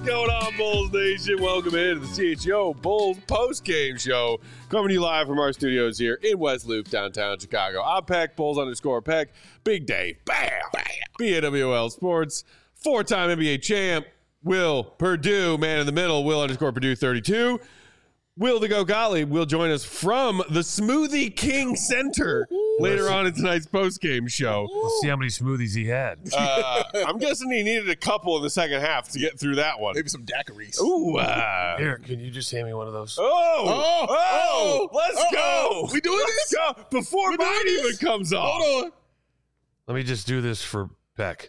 What's going on, Bulls Nation? Welcome into the CHO Bulls post-game show. Coming to you live from our studios here in West Loop, downtown Chicago. I'm Peck, Bulls_Peck. Big Dave, bam, bam. BAWL Sports. Four-time NBA champ, Will Perdue. Man in the middle, Will_Perdue 32. Will the Go Gottlieb will join us from the Smoothie King Center later on in tonight's post-game show. We'll see how many smoothies he had. I'm guessing he needed a couple in the second half to get through that one. Maybe some daiquiris. Ooh. Here, can you just hand me one of those? Let's go. We doing this? Go. Before mine even comes off. Hold on. Let me just do this for Peck.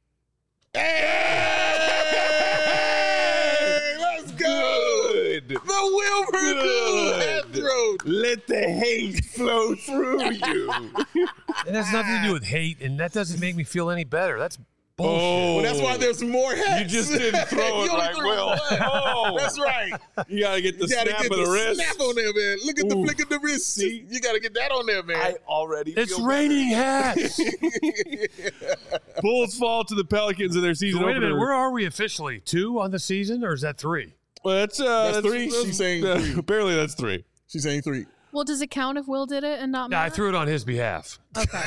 Hey, let's go. The Will Perdue half throat. Let the hate flow through you. It has nothing to do with hate, and that doesn't make me feel any better. That's bullshit. Well, that's why there's more hats. You just didn't throw it You only like threw Will. one. Oh. That's right. You got to get the You gotta snap get of the wrist. snap on there, man. Look at the Ooh. flick of the wrist. See? You got to get that on there, man. already It's raining hats. Bulls fall to the Pelicans in their season Wait a opener. minute, where are we officially? 2 on the season, or is that 3? Well, that's three. She's saying three. Apparently that's 3. She's saying 3. Well, does it count if Will did it and not Yeah, I Matt? threw it on his behalf. Okay.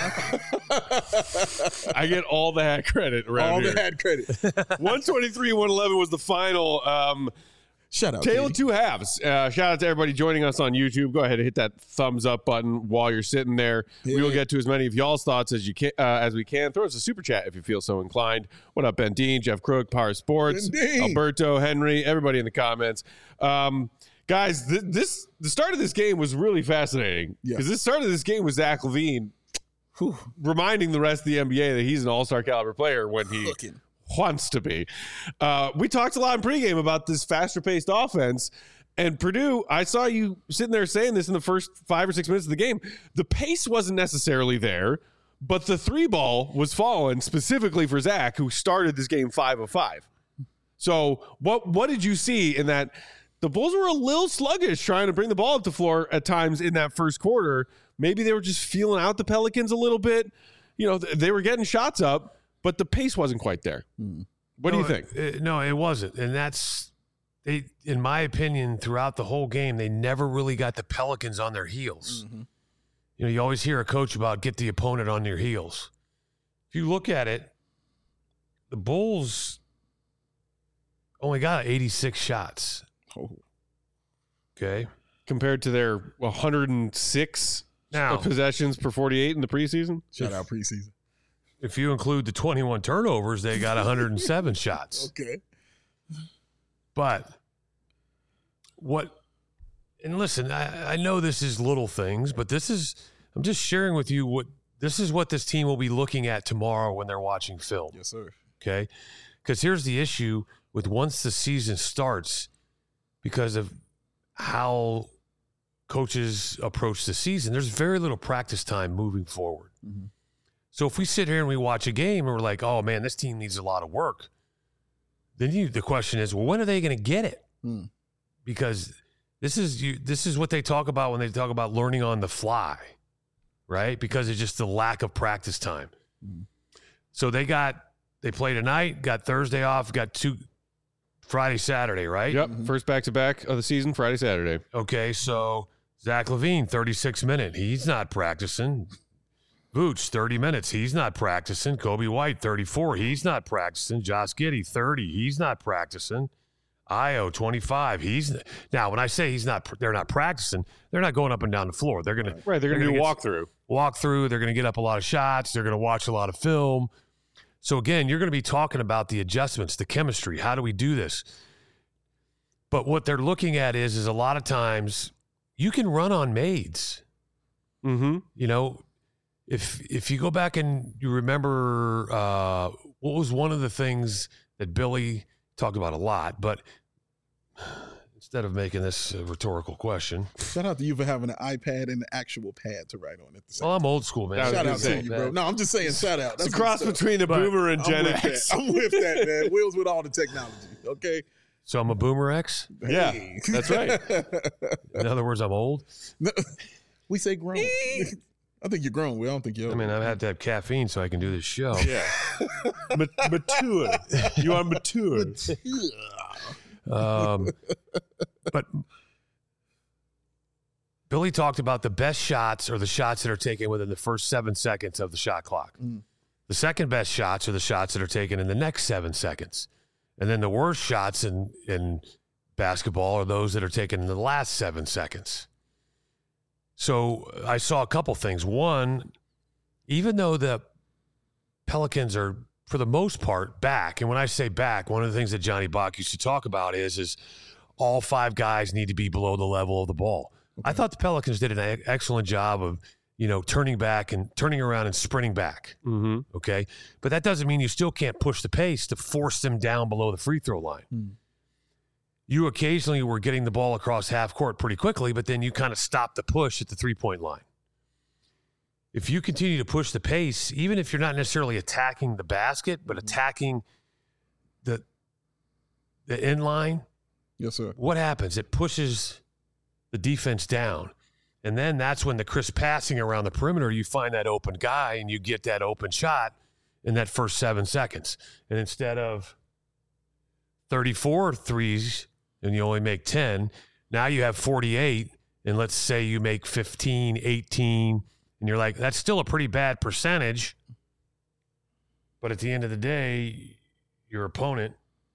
I get all the hat credit around All here. the hat credit. 123-111 was the final. Shut up. Tale of Katie. two halves. Shout out to everybody joining us on YouTube. Go ahead and hit that thumbs up button while you're sitting there. Yeah. We will get to as many of y'all's thoughts as we can. Throw us a super chat if you feel so inclined. What up, Ben Dean, Jeff Crook, Power Sports, Ben Dean. Alberto, Henry, everybody in the comments. Guys, the start of this game was really fascinating because the start of this game was Zach LaVine reminding the rest of the NBA that he's an all-star caliber player when he wants to be. We talked a lot in pregame about this faster-paced offense, and Purdue, I saw you sitting there saying this in the first 5 or 6 minutes of the game. The pace wasn't necessarily there, but the three ball was falling specifically for Zach, who started this game 5 of 5. So what did you see in that? The Bulls were a little sluggish trying to bring the ball up the floor at times in that first quarter. Maybe they were just feeling out the Pelicans a little bit. You know, they were getting shots up, but the pace wasn't quite there. What do you think? No, it wasn't. And they, in my opinion, throughout the whole game, they never really got the Pelicans on their heels. Mm-hmm. You know, you always hear a coach about get the opponent on your heels. If you look at it, the Bulls only got 86 shots. Okay. Compared to their 106 Now, possessions per 48 in the preseason? Shout out preseason. if you include the 21 turnovers, they got 107 shots. Okay. But and listen, I know this is little things, but I'm just sharing with you this is what this team will be looking at tomorrow when they're watching film. Yes, sir. Okay. Because here's the issue with once the season starts, because of how coaches approach the season, there's very little practice time moving forward. Mm-hmm. So if we sit here and we watch a game and we're like, oh man, this team needs a lot of work, then the question is, well, when are they going to get it? Because this is what they talk about when they talk about learning on the fly, right? Because it's just the lack of practice time. So they play tonight, got Thursday off, got Friday, Saturday, right? Yep. First back-to-back of the season, Friday, Saturday. Okay, so Zach LaVine, 36 minutes. He's not practicing. Vooch, 30 minutes. He's not practicing. Kobe White, 34. He's not practicing. Josh Giddey, 30. He's not practicing. Io, 25. Now, when I say they're not practicing, they're not going up and down the floor. They're going to They're going to do a walkthrough. They're going to get up a lot of shots. They're going to watch a lot of film. So again, you're going to be talking about the adjustments, the chemistry. How do we do this? But what they're looking at is a lot of times you can run on maids. Mm-hmm. You know, if you go back and you remember what was one of the things that Billy talked about a lot, but instead of making this a rhetorical question. Shout out to you for having an iPad and an actual pad to write on at the same Well, I'm old school, man. Shout out to you, bro. No, I'm just saying shout out. It's a cross between a boomer and Gen X. I'm with that, man. Wheels with all the technology, okay? So I'm a boomer X? Yeah, Hey. that's right. In other words, I'm old? No, we say grown. I think you're grown. I don't think you're old. I mean, I've had to have caffeine so I can do this show. Yeah. Mature. You are mature. But Billy talked about the best shots are the shots that are taken within the first 7 seconds of the shot clock. The second best shots are the shots that are taken in the next 7 seconds. And then the worst shots in basketball are those that are taken in the last 7 seconds. So I saw a couple things. One, even though the Pelicans are, for the most part, back, and when I say back, one of the things that Johnny Bach used to talk about is all 5 guys need to be below the level of the ball. Okay. I thought the Pelicans did an excellent job of, turning back and turning around and sprinting back. Mm-hmm. Okay. But that doesn't mean you still can't push the pace to force them down below the free throw line. You occasionally were getting the ball across half court pretty quickly, but then you kind of stopped the push at the 3-point line. If you continue to push the pace, even if you're not necessarily attacking the basket, but attacking the end line, yes, sir. What happens? It pushes the defense down. And then that's when the crisp passing around the perimeter, you find that open guy and you get that open shot in that first 7 seconds. And instead of 34 threes and you only make 10, now you have 48. And let's say you make 15, 18, and you're like, that's still a pretty bad percentage. But at the end of the day, your opponent,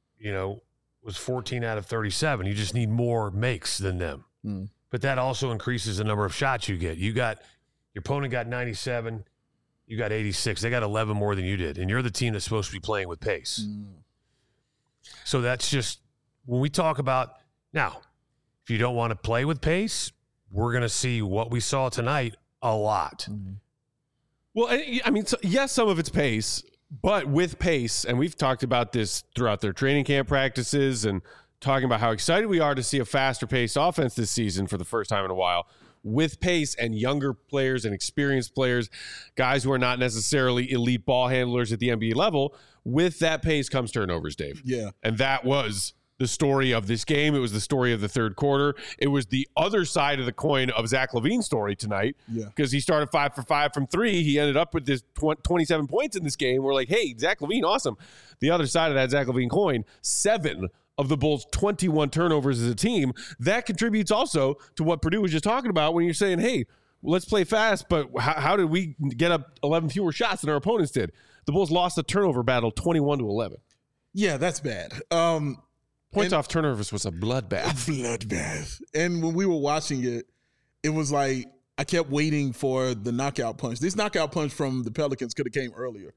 was 14 out of 37. You just need more makes than them. But that also increases the number of shots you get. Your opponent got 97. You got 86. They got 11 more than you did. And you're the team that's supposed to be playing with pace. So that's just, when we talk about, now, if you don't want to play with pace, we're going to see what we saw tonight a lot. Well, I mean, yes, some of it's pace, but with pace, and we've talked about this throughout their training camp practices and talking about how excited we are to see a faster paced offense this season for the first time in a while. With pace and younger players and experienced players, guys who are not necessarily elite ball handlers at the NBA level, with that pace comes turnovers, Dave. Yeah. And that was the story of this game. It was the story of the third quarter. It was the other side of the coin of Zach LaVine's story tonight, because he started 5 for 5 from 3. He ended up with this 27 points in this game. We're like, hey, Zach LaVine, awesome. The other side of that Zach LaVine coin, 7 of the Bulls' 21 turnovers as a team. That contributes also to what Purdue was just talking about when you're saying, hey, let's play fast, but how did we get up 11 fewer shots than our opponents did? The Bulls lost the turnover battle 21-11. Yeah, that's bad. Points off turnovers was a bloodbath. And when we were watching it, it was like I kept waiting for the knockout punch. This knockout punch from the Pelicans could have came earlier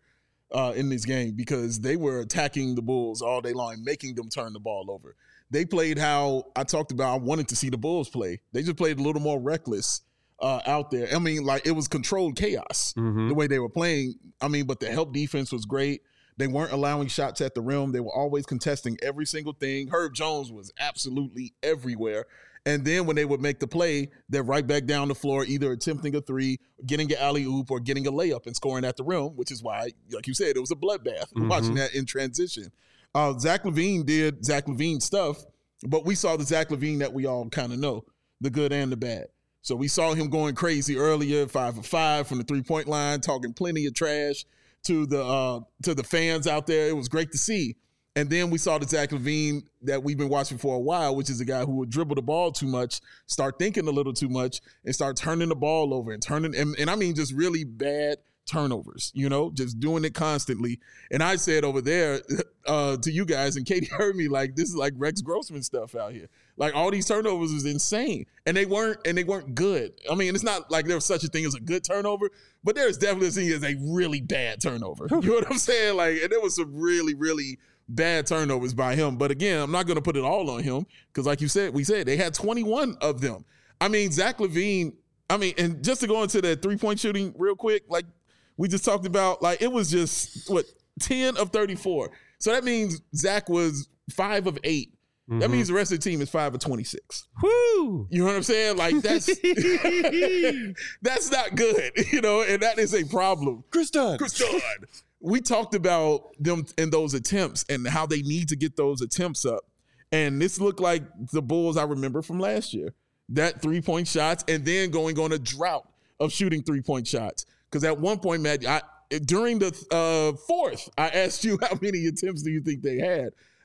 in this game, because they were attacking the Bulls all day long, making them turn the ball over. They played how I talked about I wanted to see the Bulls play. They just played a little more reckless out there. I mean, like, it was controlled chaos the way they were playing. I mean, but the help defense was great. They weren't allowing shots at the rim. They were always contesting every single thing. Herb Jones was absolutely everywhere. And then when they would make the play, they're right back down the floor, either attempting a three, getting an alley-oop, or getting a layup and scoring at the rim, which is why, like you said, it was a bloodbath watching that in transition. Zach LaVine did Zach LaVine stuff, but we saw the Zach LaVine that we all kind of know, the good and the bad. So we saw him going crazy earlier, 5 for 5 from the three-point line, talking plenty of trash to the fans out there. It was great to see. And then we saw the Zach LaVine that we've been watching for a while, which is a guy who would dribble the ball too much, start thinking a little too much, and start turning the ball over and I mean just really bad turnovers, just doing it constantly. And I said over there to you guys, and Katie heard me, like, this is like Rex Grossman stuff out here. Like, all these turnovers is insane. And they weren't good. I mean, it's not like there was such a thing as a good turnover, but there's definitely a thing as a really bad turnover. You know what I'm saying? Like, and there was some really, really bad turnovers by him. But again, I'm not going to put it all on him, because like we said, they had 21 of them. I mean, Zach LaVine, and just to go into that three-point shooting real quick, like we just talked about, like, it was just, 10 of 34. So that means Zach was 5 of 8. That means the rest of the team is 5 of 26. Woo! You know what I'm saying? Like, that's that's not good, and that is a problem. Chris Dunn. We talked about them in those attempts and how they need to get those attempts up. And this looked like the Bulls I remember from last year. That three-point shots, and then going on a drought of shooting three-point shots. Because at one point, Matt, during the fourth, I asked you how many attempts do you think they had.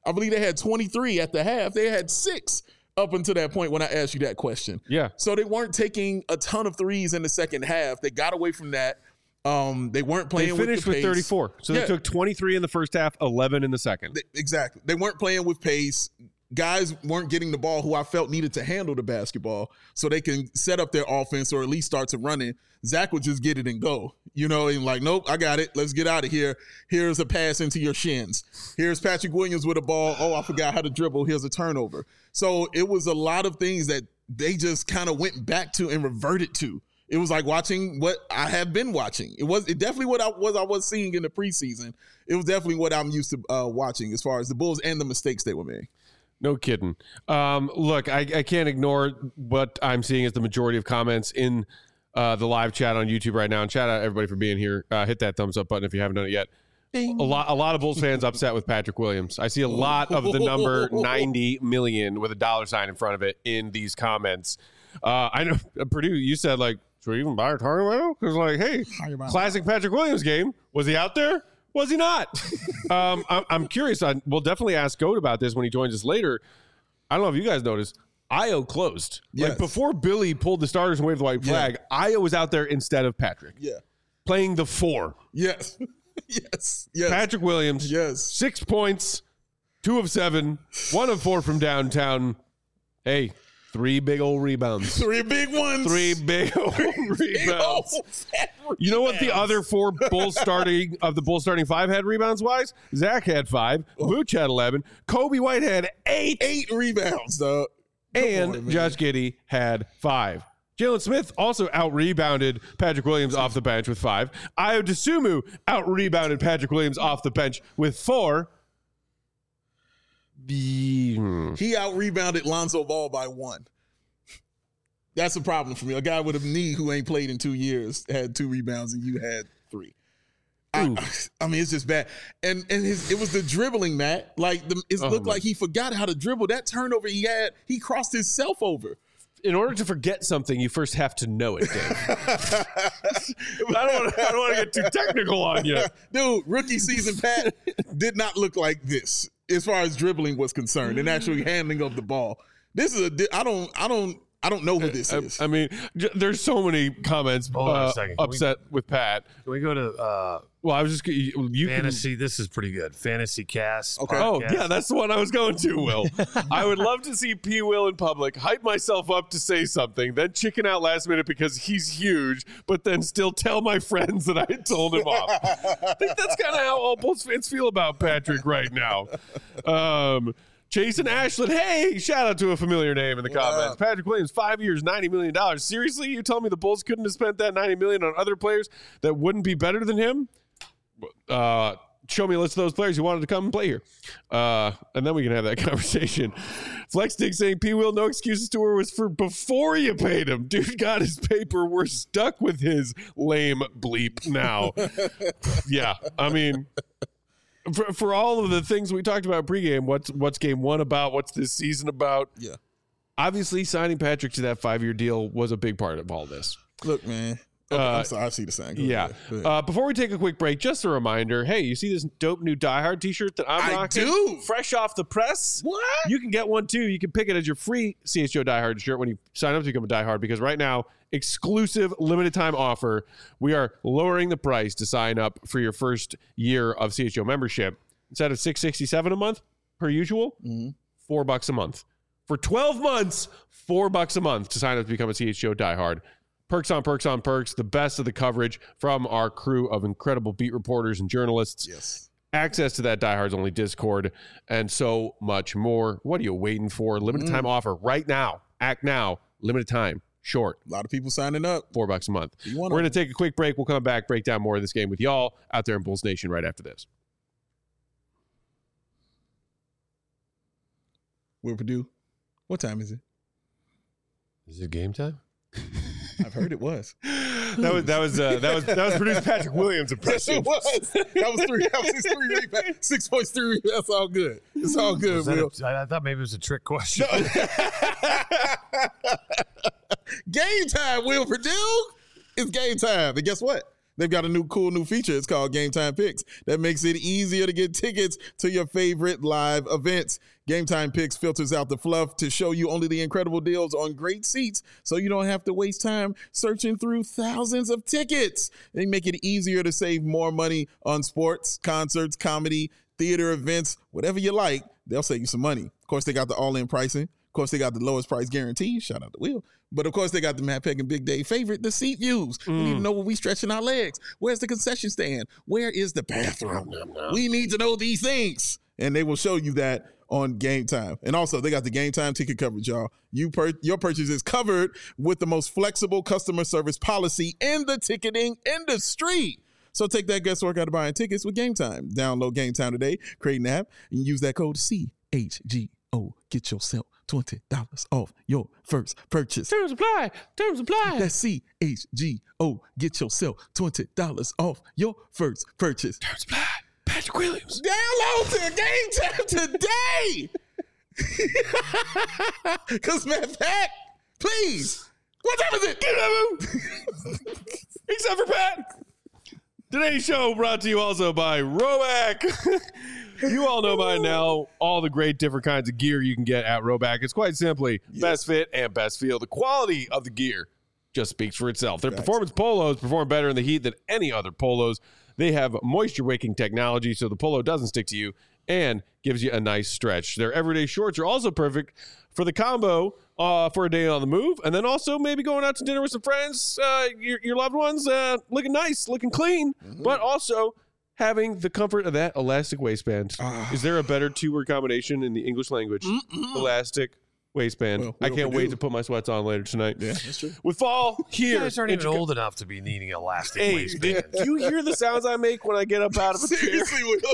I believe they had 23 at the half. They had 6 up until that point when I asked you that question. Yeah. So they weren't taking a ton of threes in the second half. They got away from that. They weren't playing. They finished with 34. So they took 23 in the first half, 11 in the second. Exactly. They weren't playing with pace. Guys weren't getting the ball who I felt needed to handle the basketball so they can set up their offense or at least start to run it. Zach would just get it and go, and like, nope, I got it. Let's get out of here. Here's a pass into your shins. Here's Patrick Williams with a ball. Oh, I forgot how to dribble. Here's a turnover. So it was a lot of things that they just kind of went back to and reverted to. It was like watching what I have been watching. It definitely what I was seeing in the preseason. It was definitely what I'm used to watching as far as the Bulls and the mistakes they were making. No kidding. Look, I can't ignore what I'm seeing as the majority of comments in the live chat on YouTube right now. And shout out everybody for being here. Hit that thumbs up button if you haven't done it yet. Bing. A lot of Bulls fans upset with Patrick Williams. I see a lot of the number 90 million with a $sign in front of it in these comments. I know, Purdue, you said, like, should we even buy a Target? Because, like, hey, classic Patrick Williams game. Was he out there? Was he not? I'm curious. We'll definitely ask Goat about this when he joins us later. I don't know if you guys noticed. Io closed. Yes. Like, before Billy pulled the starters and waved the white flag, Io was out there instead of Patrick. Yeah. Playing the 4. Yes. Yes. Patrick Williams. Yes. 6 points, 2 of 7, 1 of 4 from downtown. Hey, 3 big old rebounds. 3 big ones. 3 big old rebounds. You know what the other 4 Bulls starting 5 had rebounds wise? Zach had 5. Vooch had 11. Kobe White had 8. 8 rebounds, though. And Josh Giddey had 5. Jalen Smith also out-rebounded Patrick Williams off the bench with 5. Ayo Dosunmu out-rebounded Patrick Williams off the bench with 4. He out-rebounded Lonzo Ball by 1. That's a problem for me. A guy with a knee who ain't played in 2 years had 2 rebounds and you had 3. I mean, it's just bad. And it was the dribbling, Matt. Like, it looked like he forgot how to dribble. That turnover he had, he crossed himself over. In order to forget something, you first have to know it, Dave. I don't want to get too technical on you. Dude, rookie season Pat did not look like this as far as dribbling was concerned and actually handling of the ball. This is I don't know who this is. I mean, there's so many comments upset with Pat. Can we go to well, I was just you fantasy. This is pretty good. Fantasy cast. Okay. Oh yeah, that's the one I was going to. Will I would love to see P. Will in public hype myself up to say something, then chicken out last minute because he's huge, but then still tell my friends that I had told him off. I think that's kind of how all Bulls fans feel about Patrick right now. Jason Ashland, hey, shout out to a familiar name in the comments. Patrick Williams, 5 years, $90 million. Seriously, you tell me the Bulls couldn't have spent that $90 million on other players that wouldn't be better than him? Show me a list of those players who wanted to come and play here. And then we can have that conversation. Flex Dick saying P. Will, no excuses tour was for before you paid him. Dude got his paper. We're stuck with his lame bleep now. Yeah, I mean... For all of the things we talked about pregame, what's game 1 about? What's this season about? Yeah. Obviously, signing Patrick to that 5-year deal was a big part of all this. Look, man. Okay, I'm sorry, I see the sign. Yeah. Before we take a quick break, just a reminder, hey, you see this dope new Die Hard t-shirt that I'm rocking? I do. Fresh off the press. What? You can get one, too. You can pick it as your free CHGO Die Hard shirt when you sign up to become a Die Hard, because right now, exclusive limited time offer, we are lowering the price to sign up for your first year of CHGO membership. Instead of $6.67 a month per usual, $4 a month. For 12 months, $4 a month to sign up to become a CHGO Die Hard. Perks on perks on perks, the best of the coverage from our crew of incredible beat reporters and journalists. Yes. Access to that Die Hard's only Discord, and so much more. What are you waiting for? Limited time offer right now. Act now. Limited time. Short. A lot of people signing up. $4 a month. We're going to take a quick break. We'll come back, break down more of this game with y'all out there in Bulls Nation right after this. Will Purdue, what time is it? Is it game time? I've heard it was. That was Purdue's Patrick Williams impression. It was. That was 3. That was his 3 rebounds. 6 points, 3 rebounds. That's all good. It's all good, Will. I thought maybe it was a trick question. No. Game time, Will Purdue. It's game time. And guess what? They've got a cool new feature. It's called Game Time Picks that makes it easier to get tickets to your favorite live events. Game Time Picks filters out the fluff to show you only the incredible deals on great seats so you don't have to waste time searching through thousands of tickets. They make it easier to save more money on sports, concerts, comedy, theater events, whatever you like. They'll save you some money. Of course, they got the all-in pricing. Of course, they got the lowest price guarantee. Shout out to Will. But, of course, they got the Matt Peck and Big Dave favorite, the seat views. We need to know where we stretching our legs. Where's the concession stand? Where is the bathroom? We need to know these things. And they will show you that on Game Time. And also, they got the Game Time ticket coverage, y'all. Your purchase is covered with the most flexible customer service policy in the ticketing industry. So take that guesswork out of buying tickets with Game Time. Download Game Time today, create an app, and use that code CHGO. Get yourself $20 off your first purchase. Terms apply. Terms apply. That's CHGO. Get yourself $20 off your first purchase. Terms apply. Patrick Williams. Download to Game Time today. Because, Matt Pat, please. What time is it? Except for Pat. Today's show brought to you also by Roback. You all know by now all the great different kinds of gear you can get at Roback. It's quite simply best fit and best feel. The quality of the gear just speaks for itself. Their performance polos perform better in the heat than any other polos. They have moisture-wicking technology so the polo doesn't stick to you and gives you a nice stretch. Their everyday shorts are also perfect for the combo for a day on the move, and then also maybe going out to dinner with some friends, your loved ones, looking nice, looking clean, but also having the comfort of that elastic waistband. Is there a better two-word combination in the English language? Elastic waistband. Well, I can't wait to put my sweats on later tonight. Yeah, that's true. With fall here. You guys aren't even old enough to be needing an elastic waistband. Do you hear the sounds I make when I get up out of a chair? Seriously, Will.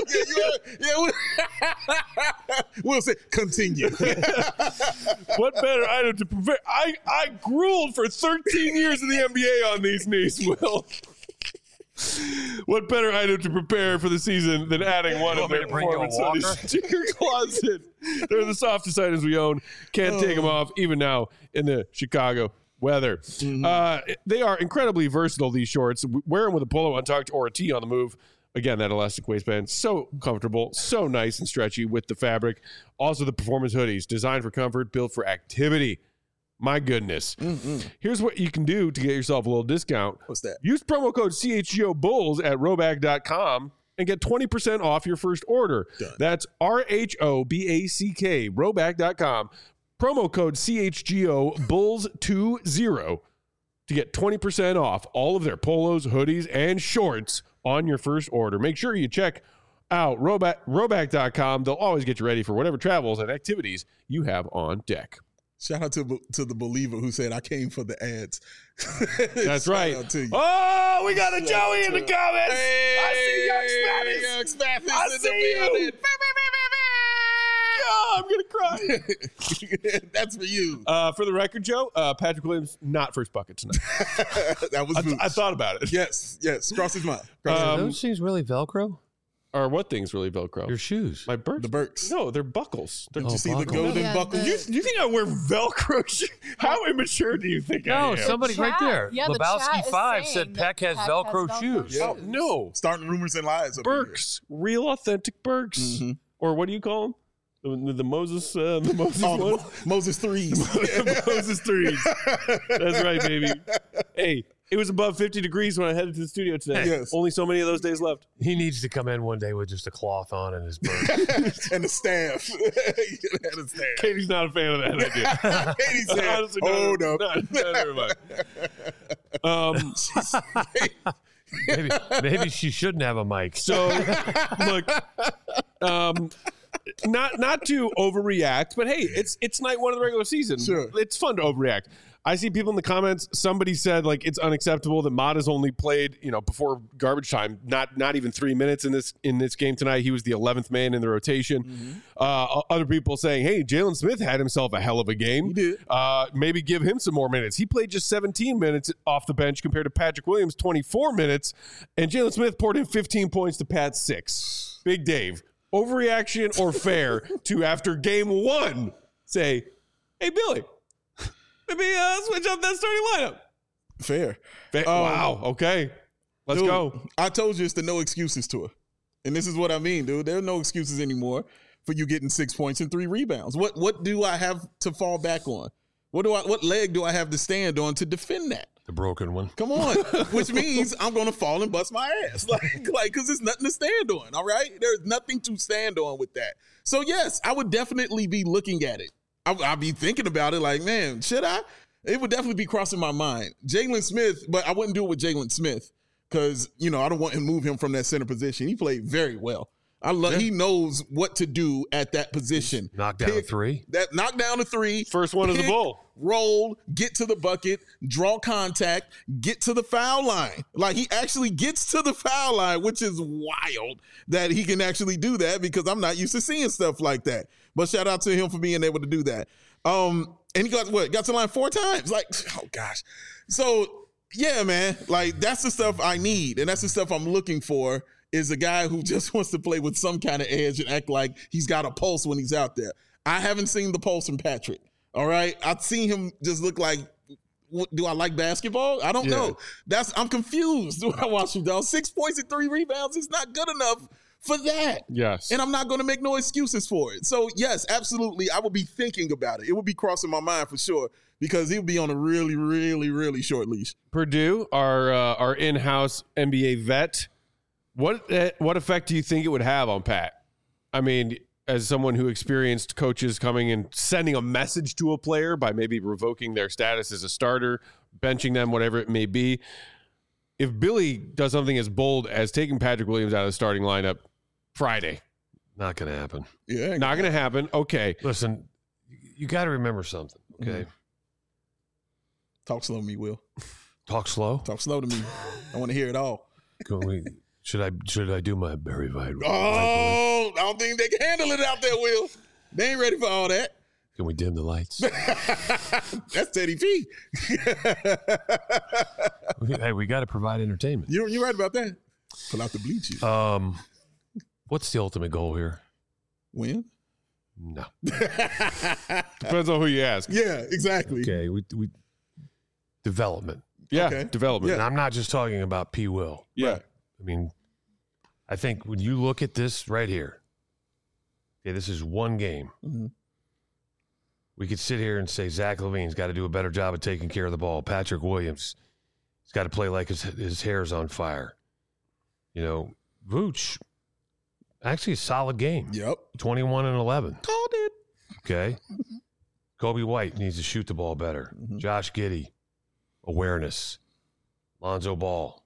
We'll say, continue. What better item to prepare? I grueled for 13 years in the NBA on these knees, Will. What better item to prepare for the season than adding one of their performance hoodies to your closet? They're the softest items we own. Can't take them off, even now in the Chicago weather. They are incredibly versatile, these shorts. Wear them with a polo untucked or a tee on the move. Again, that elastic waistband, so comfortable, so nice and stretchy with the fabric. Also, the performance hoodies, designed for comfort, built for activity. My goodness. Here's what you can do to get yourself a little discount. What's that? Use promo code CHGO Bulls at Roback.com and get 20% off your first order. Done. That's RHOBACK, Roback.com. Promo code CHGO Bulls20 to get 20% off all of their polos, hoodies, and shorts on your first order. Make sure you check out Roback.com. They'll always get you ready for whatever travels and activities you have on deck. Shout out to the believer who said, I came for the ads. That's right. Shout out to you. Oh, we got a Joey in the comments. I see Young Spanish. Young Spanish I in the see building. Oh, I'm going to cry. That's for you. For the record, Joe, Patrick Williams, not first bucket tonight. That was I thought about it. Yes. Cross his mind. Are those things really Velcro? Or what things really Velcro? Your shoes. My Birks? The Birks. No, they're buckles. Don't you see the buckles. golden Yeah, buckles? You think I wear Velcro shoes? How immature do you think I No, am? somebody right there. Yeah, the Lebowski chat is 5 saying said that Peck has Velcro shoes. Yeah. Oh, no. Starting rumors and lies. Up in here. Birks. Real authentic Birks. Or what do you call them? The Moses ones? Moses threes. Moses threes. That's right, baby. Hey, it was above 50 degrees when I headed to the studio today. Yes. Only so many of those days left. He needs to come in one day with just a cloth on and his bird. And the staff. And the staff. Katie's not a fan of that idea. Katie said, Honestly, hold up. No, never mind. Maybe she shouldn't have a mic. So, look, not to overreact, but hey, it's night one of the regular season. Sure. It's fun to overreact. I see people in the comments. Somebody said like it's unacceptable that Mott has only played before garbage time, not even 3 minutes in this game tonight. He was the 11th man in the rotation. Other people saying, hey, Jalen Smith had himself a hell of a game. He did. Maybe give him some more minutes. He played just 17 minutes off the bench compared to Patrick Williams 24 minutes, and Jalen Smith poured in 15 points to Pat's 6. Big Dave, overreaction or fair to after game one say, hey Billy, maybe switch up that starting lineup. Fair. Wow. Okay. Let's go. I told you it's the no excuses tour. And this is what I mean, dude. There are no excuses anymore for you getting 6 points and 3 rebounds. What do I have to fall back on? What leg do I have to stand on to defend that? The broken one. Come on. Which means I'm going to fall and bust my ass. Because there's nothing to stand on, all right? There's nothing to stand on with that. So, yes, I would definitely be looking at it. I'd be thinking about it like, man, should I? It would definitely be crossing my mind. Jalen Smith, but I wouldn't do it with Jalen Smith because, I don't want to move him from that center position. He played very well. He knows what to do at that position. Knock down a 3. Knock down a 3. First one of the bull. Roll, get to the bucket, draw contact, get to the foul line. Like, he actually gets to the foul line, which is wild that he can actually do that because I'm not used to seeing stuff like that. But shout out to him for being able to do that. And he got to the line 4 times. Like, oh gosh. So yeah, man, like that's the stuff I need. And that's the stuff I'm looking for is a guy who just wants to play with some kind of edge and act like he's got a pulse when he's out there. I haven't seen the pulse from Patrick. All right. I've seen him just look like, do I like basketball? I don't know. I'm confused. Do I watch him down? 6 points and 3 rebounds is not good enough for that. Yes. And I'm not going to make no excuses for it. So yes, absolutely. I will be thinking about it. It will be crossing my mind for sure because he'll be on a really, really, really short leash. Purdue, our in-house NBA vet, what effect do you think it would have on Pat? I mean, as someone who experienced coaches coming and sending a message to a player by maybe revoking their status as a starter, benching them, whatever it may be. If Billy does something as bold as taking Patrick Williams out of the starting lineup Friday, not going to happen. Yeah, not going to happen. Okay. Listen, you got to remember something, okay? Mm-hmm. Talk slow to me, Will. Talk slow? Talk slow to me. I want to hear it all. Should I do my Barry White? Oh, I don't think they can handle it out there, Will. They ain't ready for all that. Can we dim the lights? That's Teddy P. Hey, we got to provide entertainment. You're right about that. Pull out the bleachers. What's the ultimate goal here? Win? No. Depends on who you ask. Yeah, exactly. Okay, we development. Yeah, Okay. development. And I'm not just talking about P. Will. Yeah. Right. I mean, I think when you look at this right here, okay, this is one game. Mm-hmm. We could sit here and say Zach LaVine's got to do a better job of taking care of the ball. Patrick Williams, he's got to play like his hair's on fire. Vooch, actually a solid game. Yep. 21 and 11. Called it. Okay. Kobe White needs to shoot the ball better. Mm-hmm. Josh Giddey, awareness. Lonzo Ball,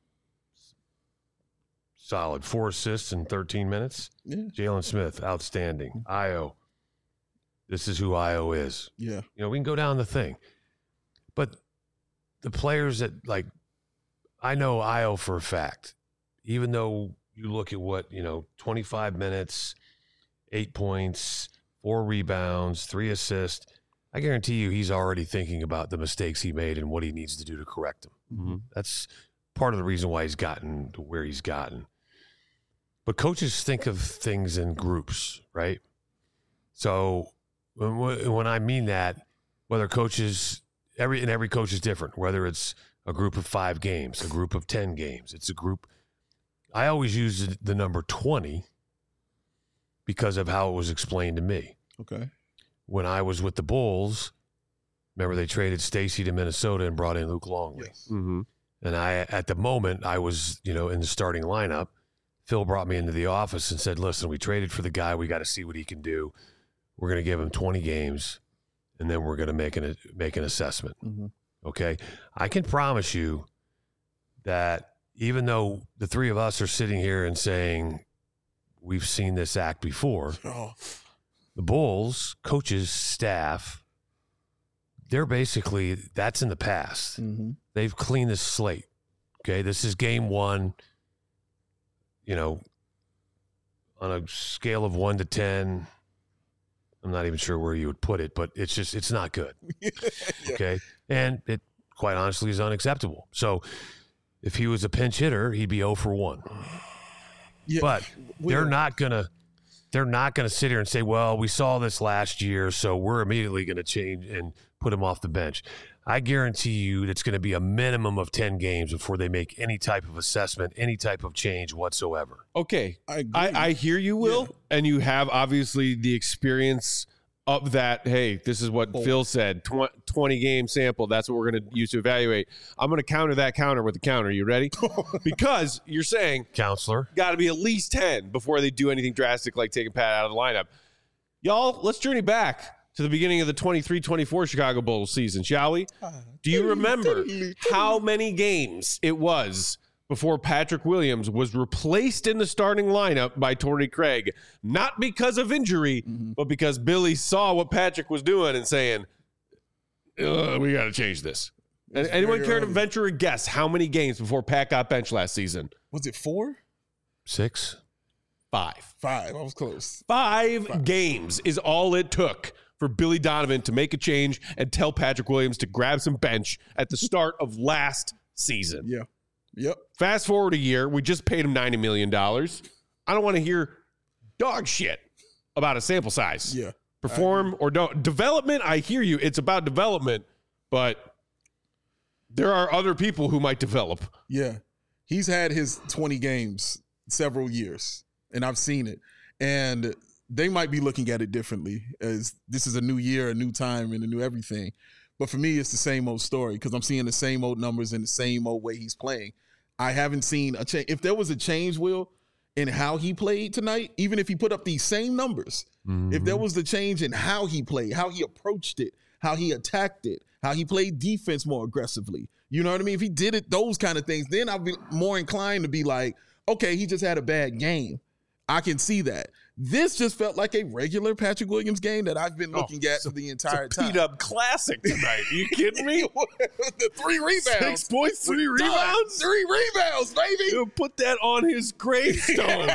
solid. 4 assists in 13 minutes. Yeah. Jalen Smith, outstanding. Io, this is who Io is. Yeah. We can go down the thing. But the players that, I know Io for a fact, even though you look at what, 25 minutes, 8 points, 4 rebounds, 3 assists, I guarantee you he's already thinking about the mistakes he made and what he needs to do to correct them. Mm-hmm. That's part of the reason why he's gotten to where he's gotten. But coaches think of things in groups, right? So when I mean that, whether coaches, every coach is different, whether it's a group of 5 games, a group of 10 games, it's a group. I always use the number 20 because of how it was explained to me. Okay. When I was with the Bulls, remember they traded Stacey to Minnesota and brought in Luke Longley. Yes. Mm-hmm. And at the moment, I was, in the starting lineup. Phil brought me into the office and said, listen, we traded for the guy. We got to see what he can do. We're going to give him 20 games, and then we're going to make an assessment. Mm-hmm. Okay? I can promise you that even though the 3 of us are sitting here and saying we've seen this act before, the Bulls, coaches, staff, they're basically, that's in the past. Mm-hmm. They've cleaned the slate. Okay, this is game 1. On a scale of 1 to 10, I'm not even sure where you would put it, but it's not good. Yeah. Okay, and it quite honestly is unacceptable. So if he was a pinch hitter, he'd be 0 for 1. Yeah. But they're not gonna sit here and say, well, we saw this last year, so we're immediately going to change and put him off the bench. I guarantee you it's going to be a minimum of 10 games before they make any type of assessment, any type of change whatsoever. Okay. I I hear you, Will, and you have obviously the experience of that. Hey, this is what Phil said, 20-game sample. That's what we're going to use to evaluate. I'm going to counter that counter with a counter. You ready? Because you're saying, Counselor, got to be at least 10 before they do anything drastic like taking Pat out of the lineup. Y'all, let's journey back to the beginning of the 23-24 Chicago Bulls season, shall we? Do you remember how many games it was before Patrick Williams was replaced in the starting lineup by Torrey Craig? Not because of injury, but because Billy saw what Patrick was doing and saying, we got to change this. Anyone care to venture a guess how many games before Pat got benched last season? Was it 4? 6? 5. 5. I was close. 5 games is all it took for Billy Donovan to make a change and tell Patrick Williams to grab some bench at the start of last season. Yeah. Yep. Fast forward a year, we just paid him $90 million. I don't want to hear dog shit about a sample size. Yeah. Perform or don't. Development, I hear you. It's about development, but there are other people who might develop. Yeah. He's had his 20 games several years, and I've seen it. And they might be looking at it differently, as this is a new year, a new time, and a new everything. But for me, it's the same old story because I'm seeing the same old numbers and the same old way he's playing. I haven't seen a change. If there was a change, Will, in how he played tonight, even if he put up these same numbers, if there was the change in how he played, how he approached it, how he attacked it, how he played defense more aggressively, you know what I mean? If he did it, those kind of things, then I'd be more inclined to be like, okay, he just had a bad game. I can see that. This just felt like a regular Patrick Williams game that I've been looking at for the entire time. Beat up classic tonight. Are you kidding me? The 3 rebounds. 6 points, 3 rebounds. 3 rebounds, baby. He'll put that on his gravestone.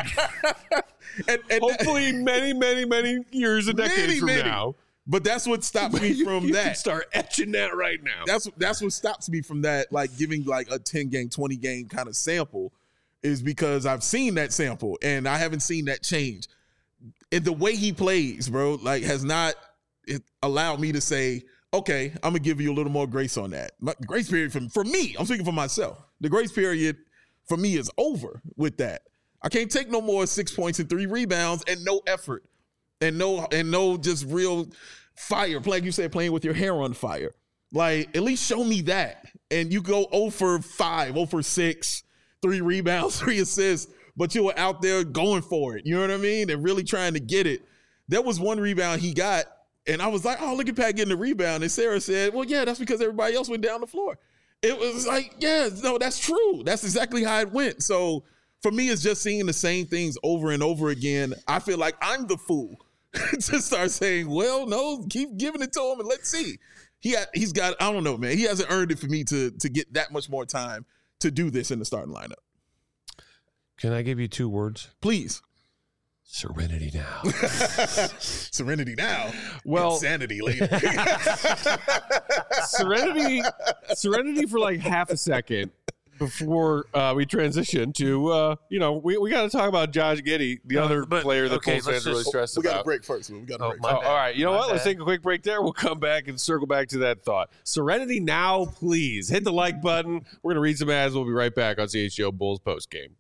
and hopefully many years and decades from now. But that's what stops me from you that. Can start etching that right now. That's what stops me from that, like giving like a 10-game, 20-game kind of sample, is because I've seen that sample and I haven't seen that change. And the way he plays, bro, like has not allowed me to say, okay, I'm gonna give you a little more grace on that. My grace period for me, I'm speaking for myself. The grace period for me is over with that. I can't take no more 6 points and 3 rebounds and no effort and no just real fire. Like you said, playing with your hair on fire. Like, at least show me that. And you go 0 for 5, 0 for 6, 3 rebounds, 3 assists, but you were out there going for it. You know what I mean? And really trying to get it. There was one rebound he got, and I was like, oh, look at Pat getting the rebound. And Sarah said, well, yeah, that's because everybody else went down the floor. It was like, yeah, no, that's true. That's exactly how it went. So for me, it's just seeing the same things over and over again. I feel like I'm the fool to start saying, well, no, keep giving it to him and let's see. He's got, I don't know, man. He hasn't earned it for me to get that much more time to do this in the starting lineup. Can I give you 2 words? Please. Serenity now. Serenity now. Well, insanity later. serenity for like half a second before we transition to, we got to talk about Josh Giddey, the other player that Bulls fans are really stressed about. We got a break first. We got a break. All right. You know what? Let's take a quick break there. We'll come back and circle back to that thought. Serenity now, please. Hit the like button. We're going to read some ads. We'll be right back on CHGO Bulls postgame.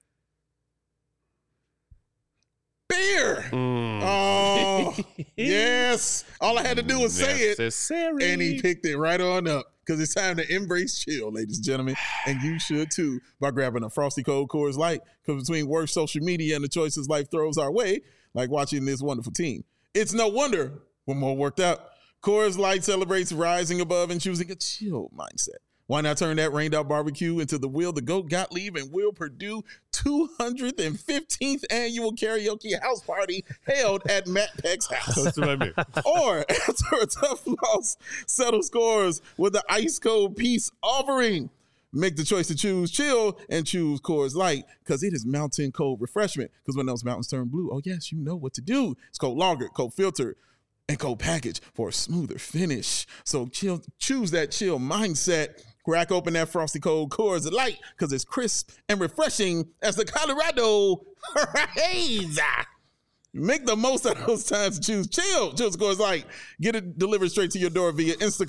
Beer. Oh, yes. All I had to do was say it, and he picked it right on up. Because it's time to embrace chill, ladies and gentlemen. And you should too, by grabbing a Frosty Cold Coors Light. Because between work, social media, and the choices life throws our way, like watching this wonderful team, it's no wonder we're more worked out. Coors Light celebrates rising above and choosing a chill mindset. Why not turn that rained out barbecue into the Will the Goat Gottlieb and Will Purdue 215th annual karaoke house party held at Matt Peck's house? That's what I mean. Or after a tough loss, settle scores with the ice cold peace offering. Make the choice to choose chill and choose Coors Light because it is mountain cold refreshment. Because when those mountains turn blue, oh yes, you know what to do. It's cold lager, cold filtered, and cold package for a smoother finish. So choose that chill mindset. Crack open that Frosty Cold Coors Light because it's crisp and refreshing as the Colorado Rays. Make the most of those times to choose chill. Choose Coors Light. Get it delivered straight to your door via Instacart.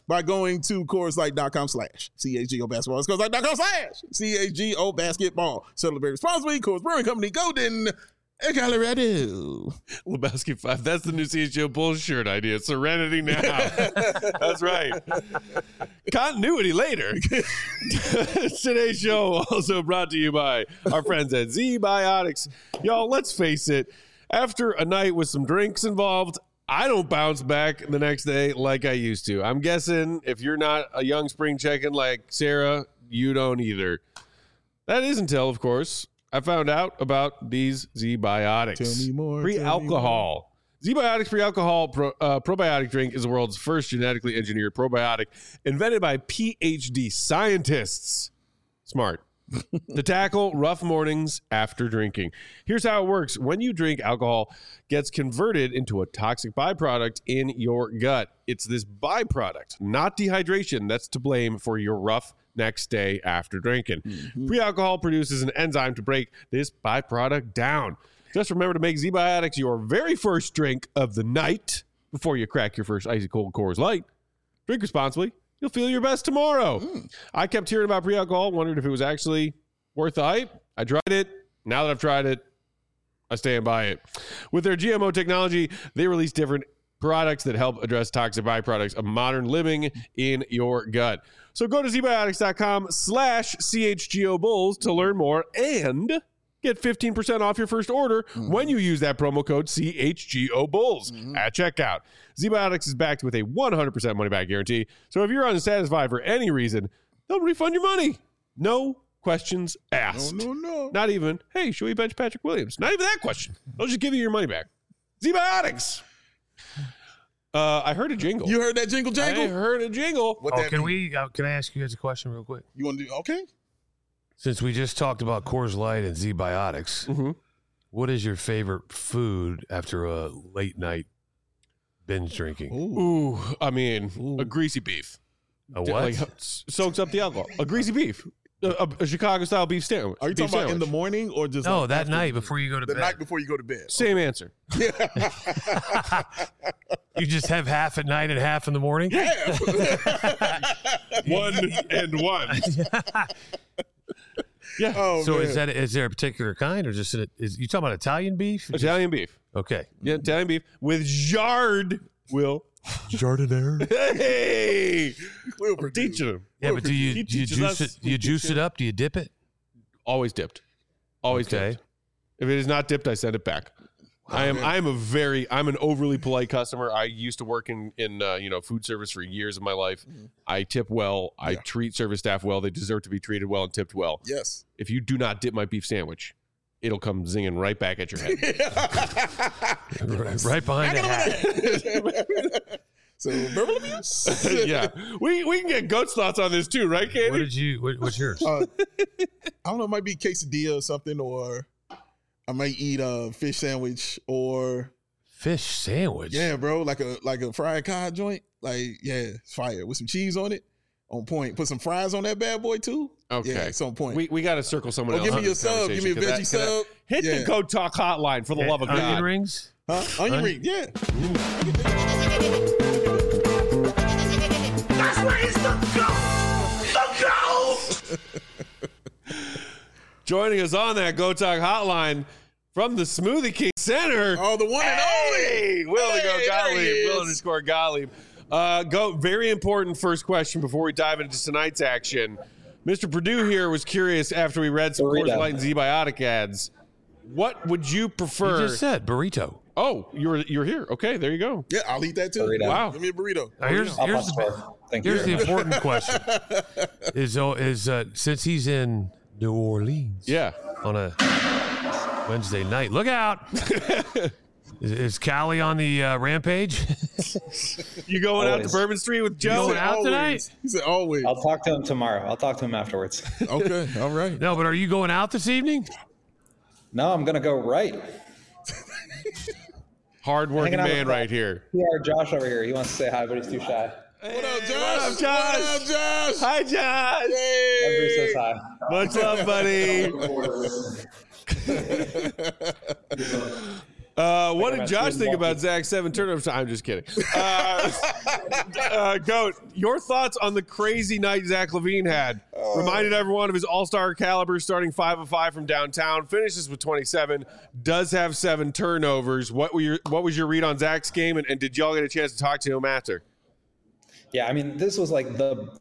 by going to Coors.com/CHGO basketball. It's Coors.com/CHGO basketball. Celebrate responsibly. Coors Brewing Company, Golden, Colorado. Lebowski 5. That's the new CHGO Bulls shirt idea. Serenity now. That's right. Continuity later. Today's show also brought to you by our friends at Z-Biotics. Y'all, let's face it. After a night with some drinks involved, I don't bounce back the next day like I used to. I'm guessing if you're not a young spring chicken like Sarah, you don't either. That is until, of course, I found out about these Z-Biotics. Tell me more. Pre-alcohol. Z-Biotics pre-alcohol probiotic drink is the world's first genetically engineered probiotic invented by PhD scientists. Smart. To tackle rough mornings after drinking. Here's how it works. When you drink, alcohol gets converted into a toxic byproduct in your gut. It's this byproduct, not dehydration, that's to blame for your rough next day after drinking. Pre-alcohol produces an enzyme to break this byproduct down. Just remember to make Z-Biotics your very first drink of the night before you crack your first icy cold Coors Light. Drink responsibly. You'll feel your best tomorrow. I kept hearing about pre-alcohol, wondered if it was actually worth the hype. I tried it. Now that I've tried it, I stand by it. With their GMO technology, they release different products that help address toxic byproducts of modern living in your gut. So go to zbiotics.com/CHGO Bulls to learn more and get 15% off your first order when you use that promo code CHGO Bulls at checkout. Z-Biotics is backed with a 100% money-back guarantee. So if you're unsatisfied for any reason, they'll refund your money. No questions asked. No. Not even, hey, should we bench Patrick Williams? Not even that question. They'll just give you your money back. Z-Biotics. I heard a jingle. You heard that jingle jangle? I heard a jingle. What that can mean? can I ask you guys a question real quick? You want to do, okay. Since we just talked about Coors Light and Z-Biotics, what is your favorite food after a late night binge drinking? Ooh, I mean, a greasy beef. A what? Like, soaks up the alcohol. A greasy beef. A Chicago-style beef sandwich. Are you talking about in the morning or just No, like that after night before you go to the bed. night before you go to bed? Same answer. You just have half at night and half in the morning? Yeah. 1 and 1. Yeah. Oh, So man. is there a particular kind or just is you talking about Italian beef? Italian beef. Okay. Yeah, Italian beef with jarred, Will. Jardiniere. Hey! Will I'm Purdue. teaching him. Yeah, but do He you teaches juice us. it? Do you juice it up? Do you dip it? Always dipped. Always Okay. dipped. If it is not dipped, I send it back. I'm an overly polite customer. I used to work in food service for years of my life. I tip well. I treat service staff well. They deserve to be treated well and tipped well. Yes. If you do not dip my beef sandwich, it'll come zinging right back at your head. Right behind the hat. So, verbal abuse? Yeah. We can get Goat's thoughts on this too, right, Katie? What's yours? I don't know. It might be quesadilla or something, or I might eat a fish sandwich, or Fish sandwich. yeah, bro, like a fried cod joint. Like, yeah, it's fire with some cheese on it. On point. Put some fries on that bad boy too. Okay. Yeah, it's on point. We got to circle someone Oh, else. give me on your this sub. Give me a conversation, veggie 'cause sub. Hit the Goat Talk hotline for the love of Onion God. rings? Huh? Onion Huh? ring. Yeah. That's where he's the goat. Joining us on that Goat Talk hotline from the Smoothie King Center. Oh, the one and only. Hey, Will the Goat Hey, there he Gottlieb. is. Will underscore Gottlieb. Goat, very important first question before we dive into tonight's action. Mr. Purdue here was curious after we read some Coors Light and Z-Biotic ads. What would you prefer? You just said burrito. Oh, you're here. Okay, there you go. Yeah, I'll eat that too. Burrito. Wow. Give me a burrito. Now, here's Thank you. the important question: is since he's in New Orleans, Yeah. on a Wednesday night, look out! Is Callie on the rampage? You going out to Always. Bourbon Street with You Joe? going out Always. tonight? He said always. I'll talk to him tomorrow. I'll talk to him afterwards. Okay. All right. No, but are you going out this evening? No, I'm gonna go right. Hard-working Hanging out man with right here. PR Josh over here. He wants to say hi, but he's too shy. What up, Josh? What up, Josh? What up, Josh? Hi, Josh. Everybody Hey. says hi. Much love, buddy. What did I'm Josh actually think about walking. Zach's 7 turnovers? I'm just kidding. Goat, your thoughts on the crazy night Zach LaVine had? Reminded everyone of his all-star caliber, starting 5 of 5 from downtown, finishes with 27, does have 7 turnovers. What was your read on Zach's game, and did y'all get a chance to talk to him after? Yeah, I mean, this was like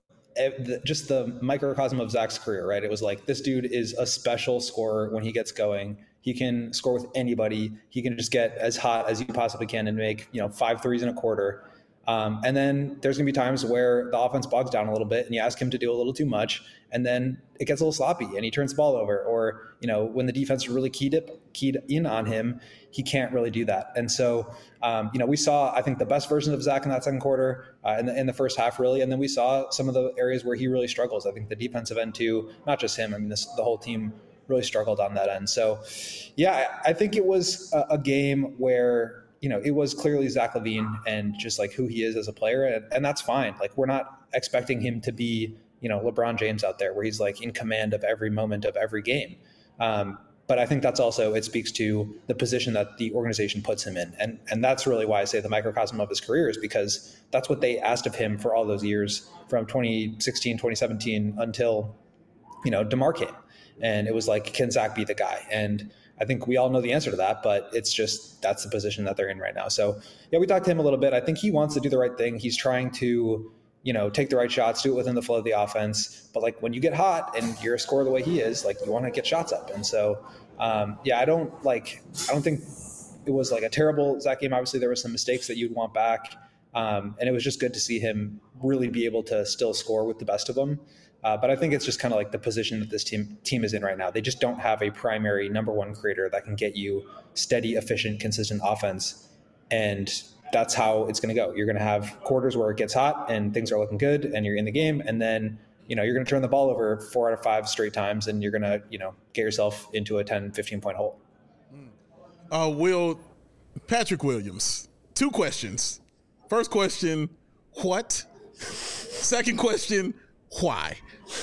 just the microcosm of Zach's career, right? It was like, this dude is a special scorer when he gets going. He can score with anybody. He can just get as hot as you possibly can and make 5 threes in a quarter. And then there's going to be times where the offense bogs down a little bit and you ask him to do a little too much, and then it gets a little sloppy and he turns the ball over. Or, when the defense is really keyed in on him, he can't really do that. And so, we saw, I think, the best version of Zach in that second quarter, in the first half, really. And then we saw some of the areas where he really struggles. I think the defensive end too, not just him. I mean, the whole team really struggled on that end. So, yeah, I think it was a game where, it was clearly Zach LaVine and just like who he is as a player. And that's fine. Like, we're not expecting him to be, LeBron James out there where he's like in command of every moment of every game. But I think that's also, it speaks to the position that the organization puts him in. And that's really why I say the microcosm of his career is because that's what they asked of him for all those years from 2016, 2017 until, DeMar came. And it was like, can Zach be the guy? And I think we all know the answer to that, but it's just, that's the position that they're in right now. So yeah, we talked to him a little bit. I think he wants to do the right thing. He's trying to, take the right shots, do it within the flow of the offense. But like, when you get hot and you're a scorer the way he is, like, you want to get shots up. And so, I don't think it was like a terrible Zach game. Obviously there were some mistakes that you'd want back. And it was just good to see him really be able to still score with the best of them. But I think it's just kind of like the position that this team is in right now. They just don't have a primary number one creator that can get you steady, efficient, consistent offense. And that's how it's going to go. You're going to have quarters where it gets hot and things are looking good and you're in the game. And then, you're going to turn the ball over 4 out of 5 straight times and you're going to, get yourself into a 10, 15 point hole. Patrick Williams, 2 questions. First question, what? Second question, why?